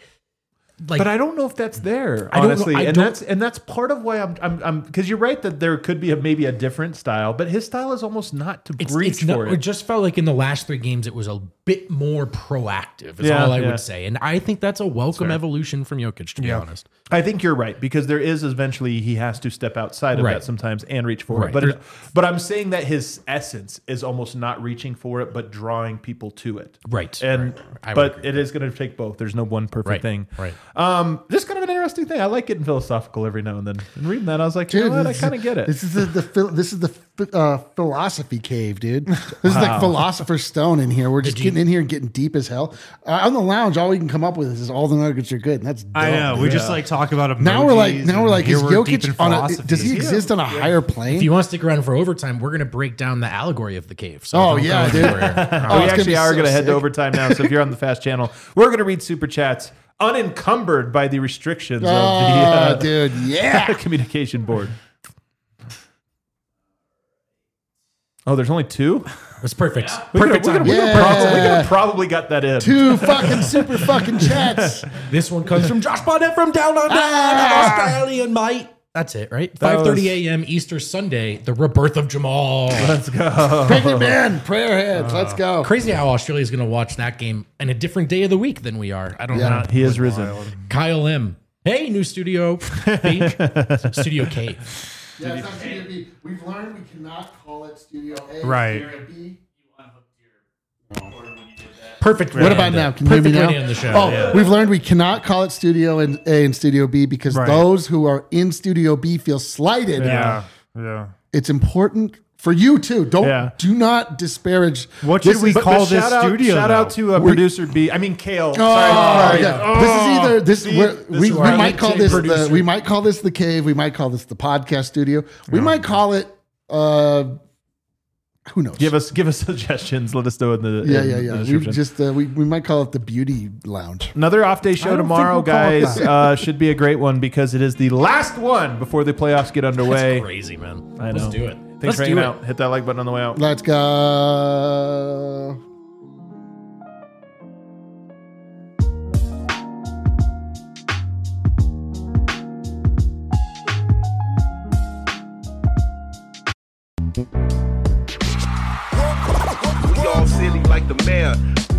But I don't know if that's there, I don't know. honestly. I And don't- that's part of why I'm because you're right that there could be maybe a different style, but his style is almost not to reach for it it. just felt like in the last 3 games, it was a bit more proactive, is Yeah, all I yeah. would say. And I think that's a welcome evolution from Jokic, to be honest. I think you're right, because there is eventually he has to step outside of Right. that sometimes and reach for Right. it. But I'm saying that his essence is almost not reaching for it, but drawing people to it. Right. And I would but agree. it is going to take both. There's no one perfect Right. thing. Right. Just kind of an interesting thing. I like getting philosophical every now and then. And reading that, I was like, you know what? I this is- kind of get it. This is the philosophy cave, dude. This is like Philosopher's Stone in here. We're just getting in here and getting deep as hell. On the lounge, all we can come up with is all the nuggets are good, and that's dumb, I know. dude. We just talk about emojis. Now we're like, and here is we're deep in Jokic on a? philosophy. Does he exist on a higher plane? If you want to stick around for overtime, we're going to break down the allegory of the cave. So Oh, don't yeah, go dude. anywhere. Oh, We it's gonna actually be are so going to head to sick. overtime now. So if you're on the Fast Channel, we're going to read super chats unencumbered by the restrictions of Oh, the dude, yeah. communication board. Oh, there's only 2? That's perfect. We Perfect could timing. have probably got that in. 2 fucking super fucking chats. This one comes from Josh Bonnet from down under, Australian mate. That's it, right? That 5:30 a.m. Easter Sunday, the rebirth of Jamal. Let's go. Pregnant man, prayer heads. Let's go. Crazy how Australia's going to watch that game in a different day of the week than we are. I don't know. He has risen. Kyle M. Hey, new studio. B. Studio K. Yeah, it's not Studio B. We've learned we cannot call it Studio A. Right. Studio B. Perfect. What about now? Can you hear me Perfect way now? to end the show. Oh, yeah. we've learned we cannot call it Studio A and Studio B because Right. those who are in Studio B feel slighted. Yeah. It's important for you too. Do not disparage. What should we call this studio? Shout out to producer B. I mean Kale. Sorry. Yeah. This is either we our might call LinkedIn this producer. we might call this the cave. We might call this the podcast studio. We might call it. Who knows? Give us suggestions. Let us know in the Yeah. the We description. just we might call it the beauty lounge. Another off day show don't tomorrow, think we'll call it guys. Should be a great one because it is the last one before the playoffs get underway. That's crazy, man. I know. Let's do it. Thanks Let's for do hanging it. out. Hit that like button on the way out. Let's go. We all silly like the mayor.